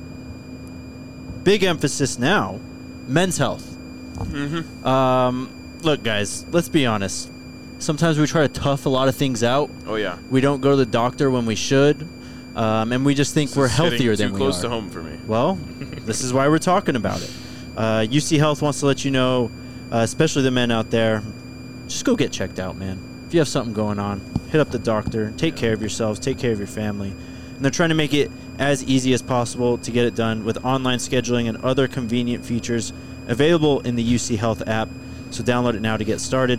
Speaker 3: Big emphasis now, men's health.
Speaker 1: Mm-hmm.
Speaker 3: Um, look, guys, let's be honest. Sometimes we try to tough a lot of things out.
Speaker 1: Oh yeah.
Speaker 3: We don't go to the doctor when we should, um, and we just think
Speaker 1: This
Speaker 3: we're
Speaker 1: is hitting
Speaker 3: healthier than
Speaker 1: too
Speaker 3: we
Speaker 1: close
Speaker 3: are.
Speaker 1: to home for me.
Speaker 3: Well, this is why we're talking about it. Uh, U C Health wants to let you know, uh, especially the men out there, just go get checked out, man. If you have something going on, hit up the doctor. Take care of yourselves. Take care of your family. And they're trying to make it as easy as possible to get it done with online scheduling and other convenient features available in the U C Health app. So download it now to get started.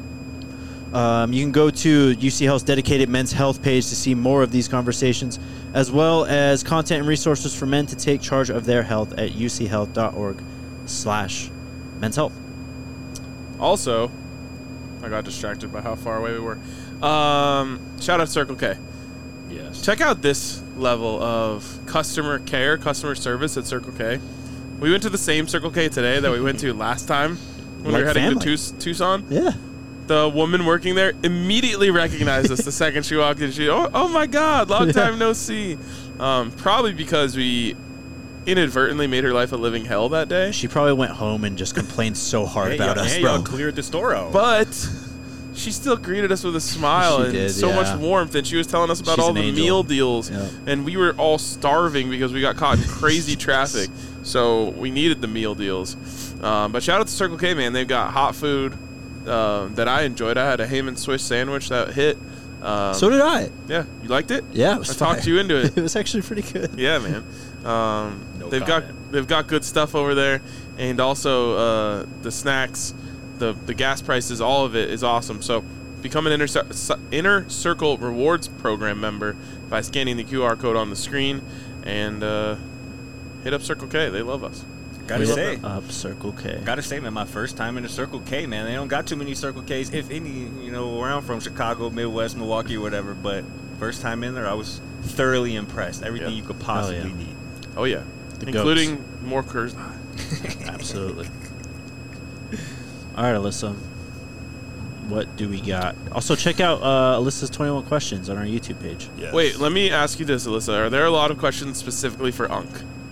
Speaker 3: Um, you can go to U C Health's dedicated men's health page to see more of these conversations, as well as content and resources for men to take charge of their health at uchealth.org slash men's health.
Speaker 1: Also, I got distracted by how far away we were. Um, shout out Circle K.
Speaker 5: Yes.
Speaker 1: Check out this level of customer care, customer service at Circle K. We went to the same Circle K today that we went to last time when we
Speaker 3: Like
Speaker 1: were heading
Speaker 3: family.
Speaker 1: to Tuc- Tucson.
Speaker 3: Yeah.
Speaker 1: The woman working there immediately recognized us the second she walked in. She, oh, oh my God, long
Speaker 3: Yeah.
Speaker 1: time no see. Um, probably because we inadvertently made her life a living hell that day.
Speaker 3: She probably went home and just complained so hard
Speaker 5: Hey,
Speaker 3: about
Speaker 5: y'all,
Speaker 3: us,
Speaker 5: hey,
Speaker 3: bro.
Speaker 5: y'all cleared the store out.
Speaker 1: But she still greeted us with a smile
Speaker 3: She
Speaker 1: and
Speaker 3: did,
Speaker 1: so
Speaker 3: yeah.
Speaker 1: much warmth, and she was telling us about
Speaker 3: She's
Speaker 1: all
Speaker 3: an
Speaker 1: the
Speaker 3: angel.
Speaker 1: meal deals,
Speaker 3: Yep.
Speaker 1: and we were all starving because we got caught in crazy traffic, so we needed the meal deals. Um, but shout out to Circle K, man. They've got hot food uh, that I enjoyed. I had a ham and Swiss sandwich that hit. Um,
Speaker 3: So did I.
Speaker 1: yeah, you liked it?
Speaker 3: Yeah, it was
Speaker 1: I talked
Speaker 3: fire.
Speaker 1: you into it.
Speaker 3: It was actually pretty good.
Speaker 1: Yeah, man. Um,
Speaker 5: No
Speaker 1: they've
Speaker 5: comment.
Speaker 1: got they've got good stuff over there, and also uh, the snacks, the the gas prices, all of it is awesome. So become an inner Cir- inner circle rewards program member by scanning the Q R code on the screen, and uh, hit up Circle K. They love us.
Speaker 5: Gotta
Speaker 3: Hit
Speaker 5: say,
Speaker 3: up Circle K.
Speaker 5: gotta say, man, my first time in a Circle K, man. They don't got too many Circle Ks, if any, you know, where I'm from, Chicago, Midwest, Milwaukee, whatever. But first time in there, I was thoroughly impressed. Everything
Speaker 1: Yeah.
Speaker 5: you could possibly
Speaker 3: yeah.
Speaker 5: need.
Speaker 1: Oh yeah,
Speaker 3: The
Speaker 1: including more Kurz.
Speaker 3: Absolutely. All right, Alyssa. What do we got? Also, check out uh, Alyssa's twenty-one questions on our YouTube page.
Speaker 5: Yes.
Speaker 1: Wait, let me ask you this, Alyssa. Are there a lot of questions specifically for Unk?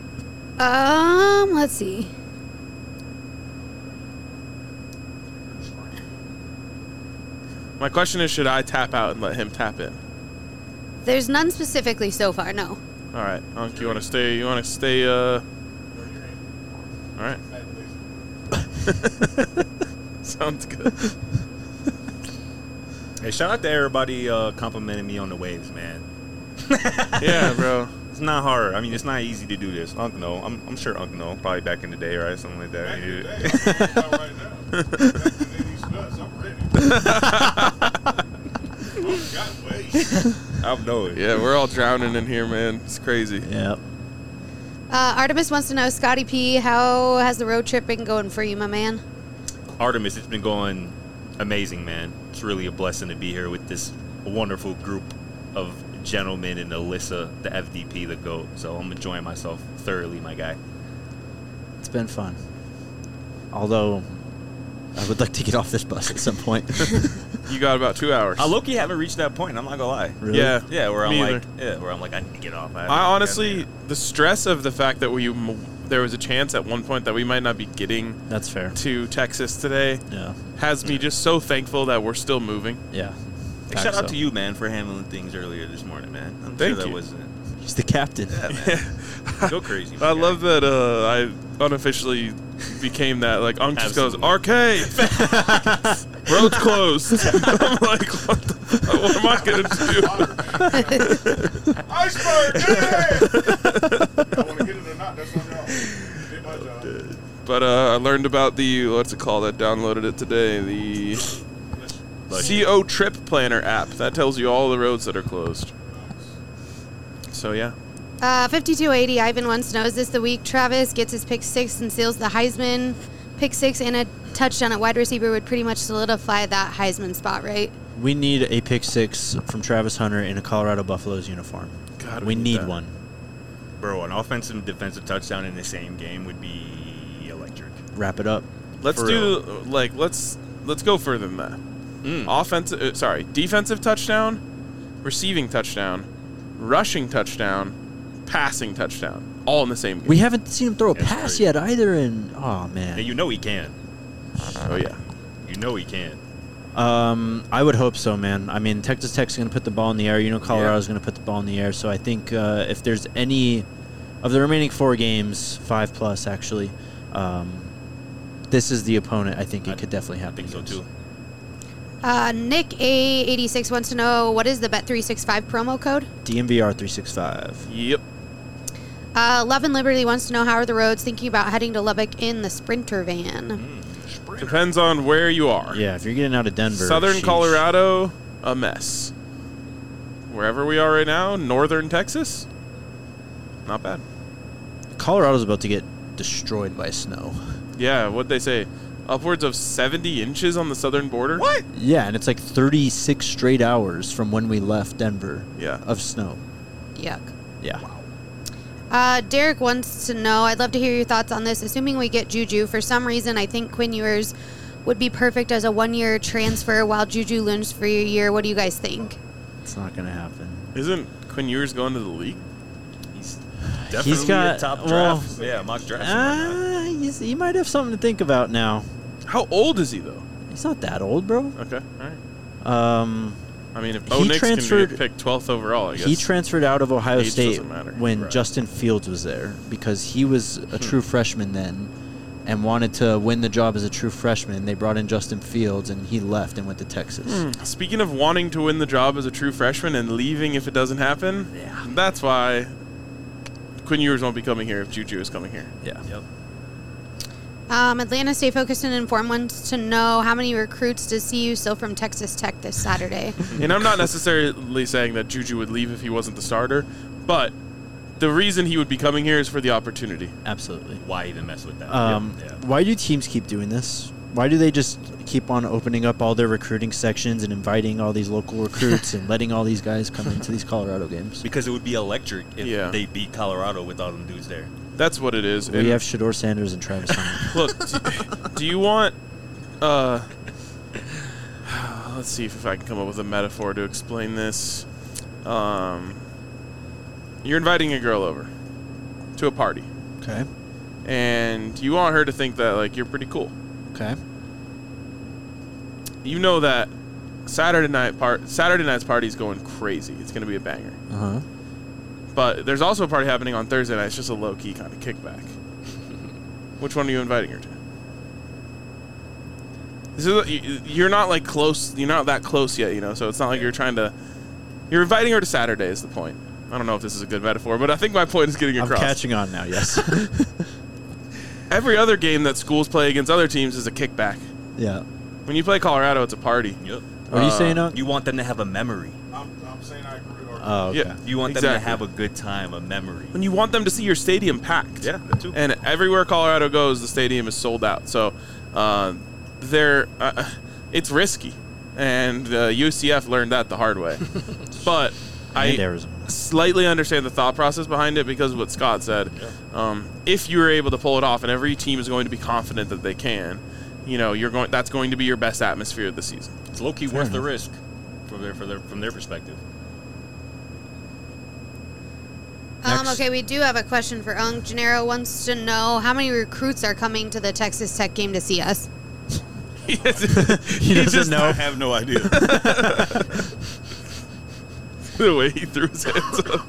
Speaker 4: Um, let's see.
Speaker 1: My question is, should I tap out and let him tap in?
Speaker 4: There's none specifically so far, no.
Speaker 1: All right, Unc, you want to stay? You want to stay? Uh. All right. Sounds good.
Speaker 5: Hey, shout out to everybody uh, complimenting me on the waves, man.
Speaker 1: Yeah, bro.
Speaker 5: It's not hard. I mean, it's not easy to do this. Unc know. I'm, I'm sure Unc know. Probably back in the day, right? Something like that.
Speaker 2: Back in
Speaker 5: He
Speaker 2: the
Speaker 5: did
Speaker 2: day,
Speaker 5: it.
Speaker 2: I'm talking about right now. Back in these nuts, I'm ready. Oh, got waves.
Speaker 5: I know it.
Speaker 1: Yeah, we're all drowning in here, man. It's crazy.
Speaker 3: Yeah.
Speaker 4: Uh, Artemis wants to know, Scotty P, how has the road trip been going for you, my man?
Speaker 5: Artemis, it's been going amazing, man. It's really a blessing to be here with this wonderful group of gentlemen and Alyssa, the F D P, the GOAT. So I'm enjoying myself thoroughly, my guy.
Speaker 3: It's been fun. Although, I would like to get off this bus at some point.
Speaker 1: You got about two hours.
Speaker 5: I low-key haven't reached that point. I'm not gonna lie.
Speaker 3: Really?
Speaker 1: Yeah.
Speaker 5: Yeah, where I'm
Speaker 1: Me
Speaker 5: like,
Speaker 1: either.
Speaker 5: yeah, where I'm like, I need to get off. I, haven't
Speaker 1: I
Speaker 5: gotten
Speaker 1: honestly,
Speaker 5: there.
Speaker 1: the stress of the fact that we m- there was a chance at one point that we might not be getting
Speaker 3: That's fair.
Speaker 1: to Texas today
Speaker 3: Yeah.
Speaker 1: has me just so thankful that we're still moving.
Speaker 3: Yeah.
Speaker 5: Hey, shout out
Speaker 3: so.
Speaker 5: to you, man, for handling things earlier this morning, man. I'm
Speaker 1: Thank
Speaker 5: sure that
Speaker 1: you.
Speaker 5: wasn't.
Speaker 3: He's the captain.
Speaker 5: Yeah, man. Go crazy. my
Speaker 1: I
Speaker 5: guy.
Speaker 1: love that uh, I unofficially became that. Like, Unc just goes,
Speaker 5: Absolutely.
Speaker 1: arcade! Road's closed. I'm like, what the fuck? What am I going to do?
Speaker 2: Iceberg, yeah! I want to get it or not, that's on y'all. Did my job.
Speaker 1: But uh, I learned about the, what's it called? I downloaded it today. The C O Trip Planner app. That tells you all the roads that are closed. So, yeah.
Speaker 4: Uh, fifty-two eighty, Ivan wants to know, is this the week Travis gets his pick six and seals the Heisman? Pick six and a touchdown at wide receiver would pretty much solidify that Heisman spot, right?
Speaker 3: We need a pick six from Travis Hunter in a Colorado Buffaloes uniform.
Speaker 1: God,
Speaker 3: we
Speaker 1: we need
Speaker 3: need
Speaker 1: that.
Speaker 3: one.
Speaker 5: Bro, an offensive and defensive touchdown in the same game would be electric.
Speaker 3: Wrap it up.
Speaker 1: Let's
Speaker 5: For
Speaker 1: do, like, let's let's go further than that.
Speaker 5: Mm.
Speaker 1: Offensive, uh, sorry, defensive touchdown, receiving touchdown, rushing touchdown, passing touchdown, all in the same game.
Speaker 3: We haven't seen him throw a
Speaker 5: That's
Speaker 3: pass
Speaker 5: crazy.
Speaker 3: yet either, and oh man.
Speaker 5: And you know he can.
Speaker 1: Oh yeah.
Speaker 5: You know he can.
Speaker 3: Um, I would hope so, man. I mean, Texas Tech's going to put the ball in the air. You know, Colorado's
Speaker 5: Yeah.
Speaker 3: going to put the ball in the air. So I think uh, if there's any of the remaining four games, five plus actually, um, this is the opponent. I think it
Speaker 5: I
Speaker 3: could definitely
Speaker 5: I
Speaker 3: happen.
Speaker 5: think so
Speaker 3: against.
Speaker 5: too.
Speaker 4: Uh, Nick A eighty-six wants to know, what is the Bet three sixty-five promo code?
Speaker 3: D M V R three sixty-five.
Speaker 1: Yep.
Speaker 4: Uh, Love and Liberty wants to know, how are the roads, thinking about heading to Lubbock in the Sprinter van?
Speaker 1: Depends on where you are.
Speaker 3: Yeah, if you're getting out of Denver,
Speaker 1: Southern
Speaker 3: sheesh.
Speaker 1: Colorado, a mess. Wherever we are right now, northern Texas, not bad.
Speaker 3: Colorado's about to get destroyed by snow.
Speaker 1: Yeah, what'd they say? Upwards of seventy inches on the southern border?
Speaker 5: What?
Speaker 3: Yeah, and it's like thirty-six straight hours from when we left Denver
Speaker 1: Yeah.
Speaker 3: of snow.
Speaker 4: Yuck.
Speaker 3: Yeah.
Speaker 4: Uh, Derek wants to know, I'd love to hear your thoughts on this. Assuming we get Juju, for some reason, I think Quinn Ewers would be perfect as a one-year transfer while Juju learns for a year. What do you guys think?
Speaker 3: It's not going to happen.
Speaker 1: Isn't Quinn Ewers going to the league?
Speaker 5: He's definitely
Speaker 3: got-
Speaker 5: a top
Speaker 3: well,
Speaker 5: draft. yeah, mock draft. and whatnot.
Speaker 3: Ah, he's, he might have something to think about now.
Speaker 1: How old is he, though?
Speaker 3: He's not that old, bro.
Speaker 1: Okay, all right.
Speaker 3: Um,
Speaker 1: I mean, if
Speaker 3: He
Speaker 1: Bo Nix can
Speaker 3: transferred-
Speaker 1: be picked twelfth overall, I guess.
Speaker 3: he transferred out of Ohio
Speaker 1: Age
Speaker 3: State
Speaker 1: doesn't matter.
Speaker 3: when
Speaker 1: Right.
Speaker 3: Justin Fields was there because he was a
Speaker 1: Hmm.
Speaker 3: true freshman then and wanted to win the job as a true freshman. They brought in Justin Fields, and he left and went to Texas.
Speaker 1: Hmm. Speaking of wanting to win the job as a true freshman and leaving if it doesn't happen,
Speaker 3: Yeah.
Speaker 1: that's why Quinn Ewers won't be coming here if Juju is coming here.
Speaker 3: Yeah.
Speaker 5: Yep.
Speaker 4: Um, Atlanta Stay Focused and Informed wants to know, how many recruits does C U still from Texas Tech this Saturday?
Speaker 1: And I'm not necessarily saying that Juju would leave if he wasn't the starter, but the reason he would be coming here is for the opportunity.
Speaker 3: Absolutely.
Speaker 5: Why even mess with that?
Speaker 3: Um,
Speaker 5: yeah.
Speaker 3: Why do teams keep doing this? Why do they just keep on opening up all their recruiting sections and inviting all these local recruits and letting all these guys come into these Colorado games?
Speaker 5: Because it would be electric if
Speaker 1: Yeah.
Speaker 5: they beat Colorado with all them dudes there.
Speaker 1: That's what it is.
Speaker 3: We
Speaker 1: And
Speaker 3: have Shador Sanders and Travis Hunter.
Speaker 1: look, do, do you want? Uh, let's see if, if I can come up with a metaphor to explain this. Um, you're inviting a girl over to a party,
Speaker 3: Okay.
Speaker 1: and you want her to think that like you're pretty cool.
Speaker 3: Okay.
Speaker 1: You know that Saturday night part. Saturday night's party is going crazy. It's going to be a banger.
Speaker 3: Uh huh.
Speaker 1: But there's also a party happening on Thursday night. It's just a low key kind of kickback. Which one are you inviting her to? This is, you're not like close. You're not that close yet, you know. So it's not like you're trying to. You're inviting her to Saturday is the point. I don't know if this is a good metaphor, but I think my point is getting
Speaker 3: I'm
Speaker 1: across.
Speaker 3: catching on now. Yes.
Speaker 1: Every other game that schools play against other teams is a kickback.
Speaker 3: Yeah.
Speaker 1: When you play Colorado, it's a party.
Speaker 5: Yep.
Speaker 3: What are you
Speaker 1: Uh,
Speaker 3: saying, Unc?
Speaker 5: You want them to have a memory.
Speaker 2: I'm, I'm saying I agree. Or
Speaker 3: Oh, okay.
Speaker 1: Yeah.
Speaker 5: You want them to
Speaker 1: Exactly.
Speaker 5: have a good time, a memory.
Speaker 1: When you want them to see your stadium packed.
Speaker 5: Yeah, that too.
Speaker 1: And everywhere Colorado goes, the stadium is sold out. So uh, they're uh, it's risky, and uh, U C F learned that the hard way. But
Speaker 3: And
Speaker 1: I
Speaker 3: Arizona.
Speaker 1: slightly understand the thought process behind it because of what Scott said. Um, if you were able to pull it off, and every team is going to be confident that they can, you know, you're going. That's going to be your best atmosphere of the season.
Speaker 5: It's low key
Speaker 3: Fair
Speaker 5: worth the
Speaker 3: enough.
Speaker 5: risk from their, for their from their perspective.
Speaker 4: Um,
Speaker 3: Next.
Speaker 4: okay, we do have a question for Unk. Gennaro wants to know how many recruits are coming to the Texas Tech game to see us.
Speaker 1: he
Speaker 3: He doesn't
Speaker 1: just-
Speaker 3: know.
Speaker 2: I have no idea.
Speaker 1: The way he threw his hands up.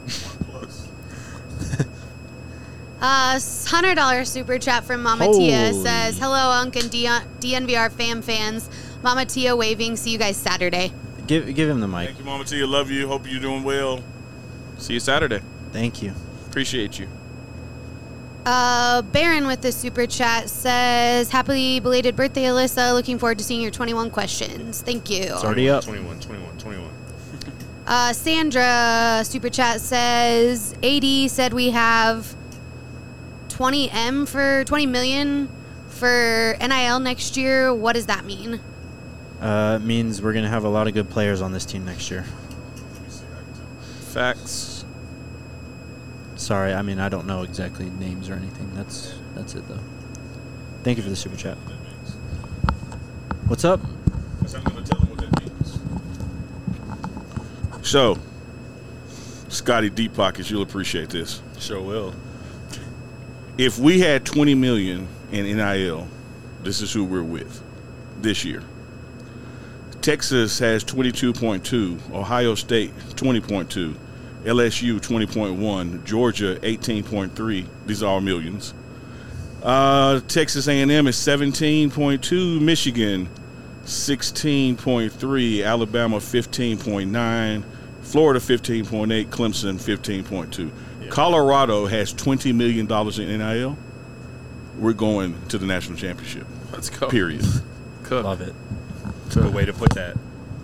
Speaker 4: Uh, one hundred dollars super chat from Mama Tia
Speaker 3: Holy.
Speaker 4: says, hello, Unk and D- DNVR fam fans. Mama Tia waving. See you guys Saturday.
Speaker 3: Give give him the mic.
Speaker 2: Thank you, Mama Tia. Love you. Hope you're doing well.
Speaker 1: See you Saturday.
Speaker 3: Thank you.
Speaker 1: Appreciate you.
Speaker 4: Uh, Baron with the super chat says, happy belated birthday, Alyssa. Looking forward to seeing your twenty-one questions. Thank you.
Speaker 3: It's already up.
Speaker 5: twenty-one, twenty-one, twenty-one.
Speaker 4: Uh, Sandra super chat says, A D said we have twenty M for twenty million for N I L next year. What does that mean?
Speaker 3: Uh, it means we're gonna have a lot of good players on this team next year.
Speaker 1: Facts.
Speaker 3: Sorry, I mean I don't know exactly names or anything. That's that's it though. Thank you for the super chat. What's up?
Speaker 2: I'm going to tell them what that means. So, Scotty Deep Pockets, you'll appreciate this.
Speaker 5: Sure will.
Speaker 2: If we had twenty million in N I L, this is who we're with this year. Texas has twenty-two point two, Ohio State twenty point two, L S U twenty point one, Georgia eighteen point three. These are all millions. Uh, Texas A and M is seventeen point two, Michigan sixteen point three, Alabama fifteen point nine, Florida fifteen point eight, Clemson fifteen point two. Colorado has twenty million dollars in N I L. We're going to the national championship.
Speaker 1: Let's go.
Speaker 2: Period.
Speaker 1: Cook.
Speaker 3: Love it.
Speaker 5: Good way to put that.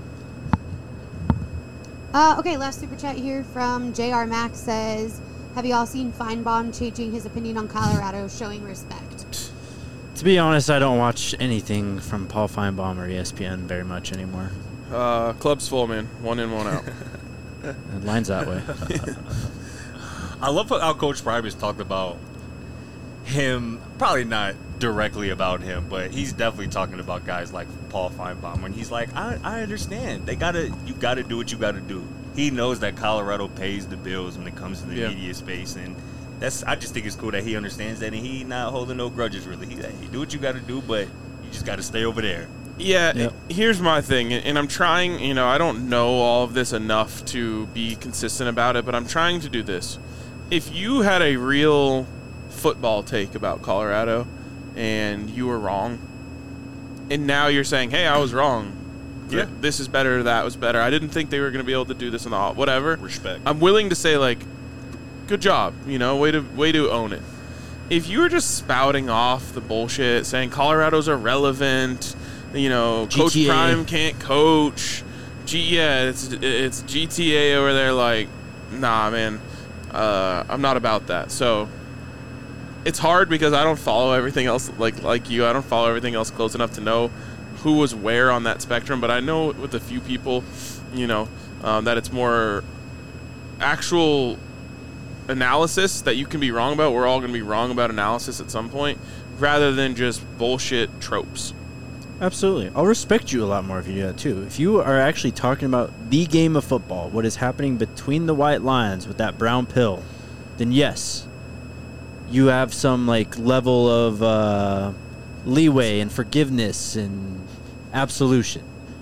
Speaker 4: Uh, okay, last super chat here from J R Max says, have you all seen Feinbaum changing his opinion on Colorado, showing respect?
Speaker 3: To be honest, I don't watch anything from Paul Feinbaum or E S P N very much anymore.
Speaker 1: Uh, club's full, man. One in, one out.
Speaker 3: It lines that way.
Speaker 5: I love how Coach Prime has talked about him, probably not directly about him, but he's definitely talking about guys like Paul Feinbaum. And he's like, I, I understand. They gotta, you gotta do what you gotta do. He knows that Colorado pays the bills when it comes to the
Speaker 1: Yeah.
Speaker 5: media space, and that's. I just think it's cool that he understands that, and he not holding no grudges really. He, he do what you gotta do, but you just gotta stay over there.
Speaker 1: Yeah,
Speaker 3: Yep.
Speaker 1: here's my thing, and I'm trying, you know, I don't know all of this enough to be consistent about it, but I'm trying to do this. If you had a real football take about Colorado and you were wrong, and now you're saying, hey, I was wrong.
Speaker 5: Yeah.
Speaker 1: Th- This is better, that was better. I didn't think they were going to be able to do this in the whatever.
Speaker 5: Respect.
Speaker 1: I'm willing to say, like, good job, you know, way to way to own it. If you were just spouting off the bullshit, saying Colorado's irrelevant, you know, Coach
Speaker 3: G T A.
Speaker 1: Prime can't coach, G yeah, it's it's G T A over there, like, nah, man, uh, I'm not about that. So it's hard because I don't follow everything else like like you. I don't follow everything else close enough to know who was where on that spectrum, but I know with a few people, you know, um, that it's more actual analysis that you can be wrong about. We're all going to be wrong about analysis at some point, rather than just bullshit tropes.
Speaker 3: Absolutely. I'll respect you a lot more if you do that too. If you are actually talking about the game of football, what is happening between the white lines with that brown pill, then yes, you have some like level of uh, leeway and forgiveness and absolution.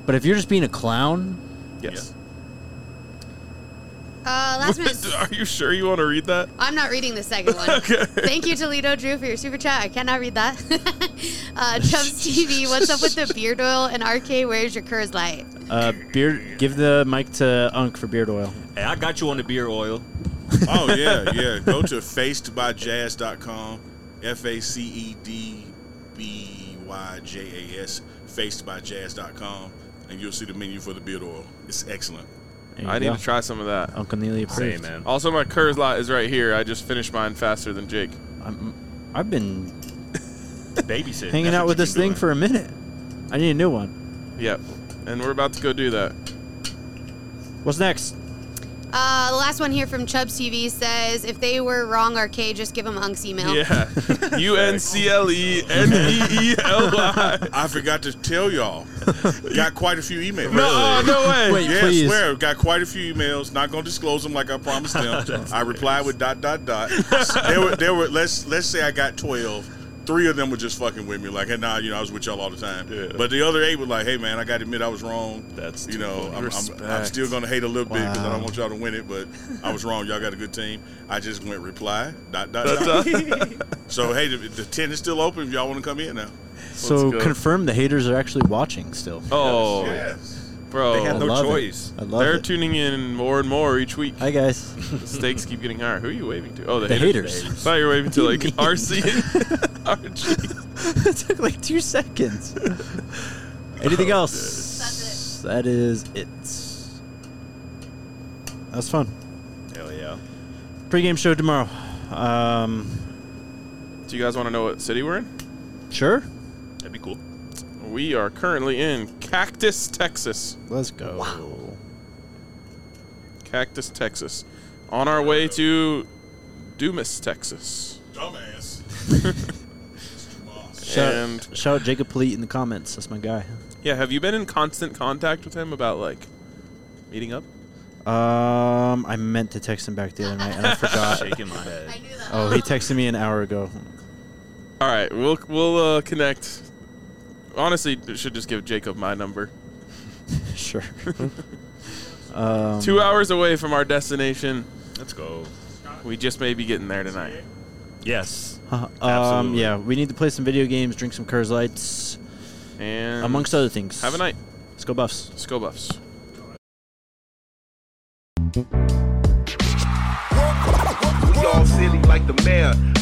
Speaker 3: But if you're just being a clown,
Speaker 1: Yes.
Speaker 4: Uh, last minute.
Speaker 1: Are you sure you want to read that?
Speaker 4: I'm not reading the second one.
Speaker 1: Okay.
Speaker 4: Thank you, Toledo Drew, for your super chat. I cannot read that. uh, Chubbs T V, what's up with the beard oil? And R K, where's your Coors Light?
Speaker 3: uh, beard. Give the mic to Unc for beard oil.
Speaker 5: Hey, I got you on the beer oil.
Speaker 2: Oh, yeah, yeah. Go to faced by jazz dot com. F A C E D B Y J A S. faced by jazz dot com. And you'll see the menu for the beard oil. It's excellent.
Speaker 3: There you
Speaker 1: I need
Speaker 3: go.
Speaker 1: to try some of that.
Speaker 3: Uncle Neely approved.
Speaker 5: Same, man.
Speaker 1: Also, my Coors Light is right here. I just finished mine faster than Jake.
Speaker 3: I'm, I've been
Speaker 5: Babysitting.
Speaker 3: hanging
Speaker 5: That's
Speaker 3: out
Speaker 5: what
Speaker 3: with
Speaker 5: you've
Speaker 3: this
Speaker 5: been
Speaker 3: thing
Speaker 5: doing.
Speaker 3: for a minute. I need a new one.
Speaker 1: Yep. And we're about to go do that.
Speaker 3: What's next?
Speaker 4: Uh, the last one here from Chubbs T V says, if they were wrong, R K, just give them Unc's email.
Speaker 1: Yeah. U N C L E N E E L Y.
Speaker 2: I forgot to tell y'all. Got quite a few emails.
Speaker 1: No, oh, no way.
Speaker 3: Wait,
Speaker 2: Yeah,
Speaker 3: please.
Speaker 2: I swear, got quite a few emails. Not gonna disclose them like I promised them. I replied with dot dot dot. There were, there were. Let's let's say I got twelve. Three of them were just fucking with me, like, hey, nah, you know, I was with y'all all the time.
Speaker 5: Yeah.
Speaker 2: But the other eight were like, hey, man, I got to admit I was wrong.
Speaker 5: That's
Speaker 2: you
Speaker 5: too
Speaker 2: know,
Speaker 5: funny.
Speaker 2: I'm, I'm, I'm
Speaker 1: Respect.
Speaker 2: still gonna hate a little bit because I
Speaker 3: Wow.
Speaker 2: don't want y'all to win it, but I was wrong. Y'all got a good team. I just went reply dot dot
Speaker 1: Dot,
Speaker 2: dot. So hey, the, the tent is still open if y'all want to come in now.
Speaker 3: So
Speaker 1: go.
Speaker 3: confirm the haters are actually watching still.
Speaker 1: Oh,
Speaker 2: Yes.
Speaker 1: bro.
Speaker 5: They had
Speaker 3: I
Speaker 5: no
Speaker 3: love it.
Speaker 5: choice.
Speaker 3: I love
Speaker 1: They're
Speaker 3: it.
Speaker 1: tuning in more and more each week.
Speaker 3: Hi guys.
Speaker 1: The stakes keep getting higher. Who are you waving to? Oh, the,
Speaker 3: The
Speaker 1: haters.
Speaker 3: haters.
Speaker 1: I thought you were waving to
Speaker 3: What do
Speaker 1: like
Speaker 3: you mean?
Speaker 1: R C and R G.
Speaker 3: It took like two seconds. Anything else?
Speaker 4: That's
Speaker 3: That is it. That was fun.
Speaker 5: Hell yeah.
Speaker 3: Pre-game show tomorrow. Um,
Speaker 1: Do you guys want to know what city we're in?
Speaker 3: sure.
Speaker 5: That'd be cool.
Speaker 1: We are currently in Cactus, Texas.
Speaker 3: Let's go.
Speaker 1: Cactus, Texas. On our way to Dumas, Texas.
Speaker 2: Dumbass.
Speaker 3: Shout,
Speaker 1: And
Speaker 3: shout out Jacob Polite in the comments. That's my guy.
Speaker 1: yeah, have you been in constant contact with him about like meeting up?
Speaker 3: Um, I meant to text him back the other night and I forgot.
Speaker 5: Shaking my head.
Speaker 4: I knew that.
Speaker 3: Oh, he texted me an hour ago.
Speaker 1: All right, we'll we'll uh, connect. Honestly, I should just give Jacob my number.
Speaker 3: Sure. um,
Speaker 1: Two hours away from our destination.
Speaker 5: Let's go.
Speaker 1: We just may be getting there tonight.
Speaker 5: Yes.
Speaker 3: uh, um,
Speaker 5: Absolutely.
Speaker 3: yeah, we need to play some video games, drink some Coors Lights,
Speaker 1: And
Speaker 3: amongst other things.
Speaker 1: have a night.
Speaker 3: Let's go Buffs.
Speaker 1: Let's go Buffs.
Speaker 6: We all silly like the mayor.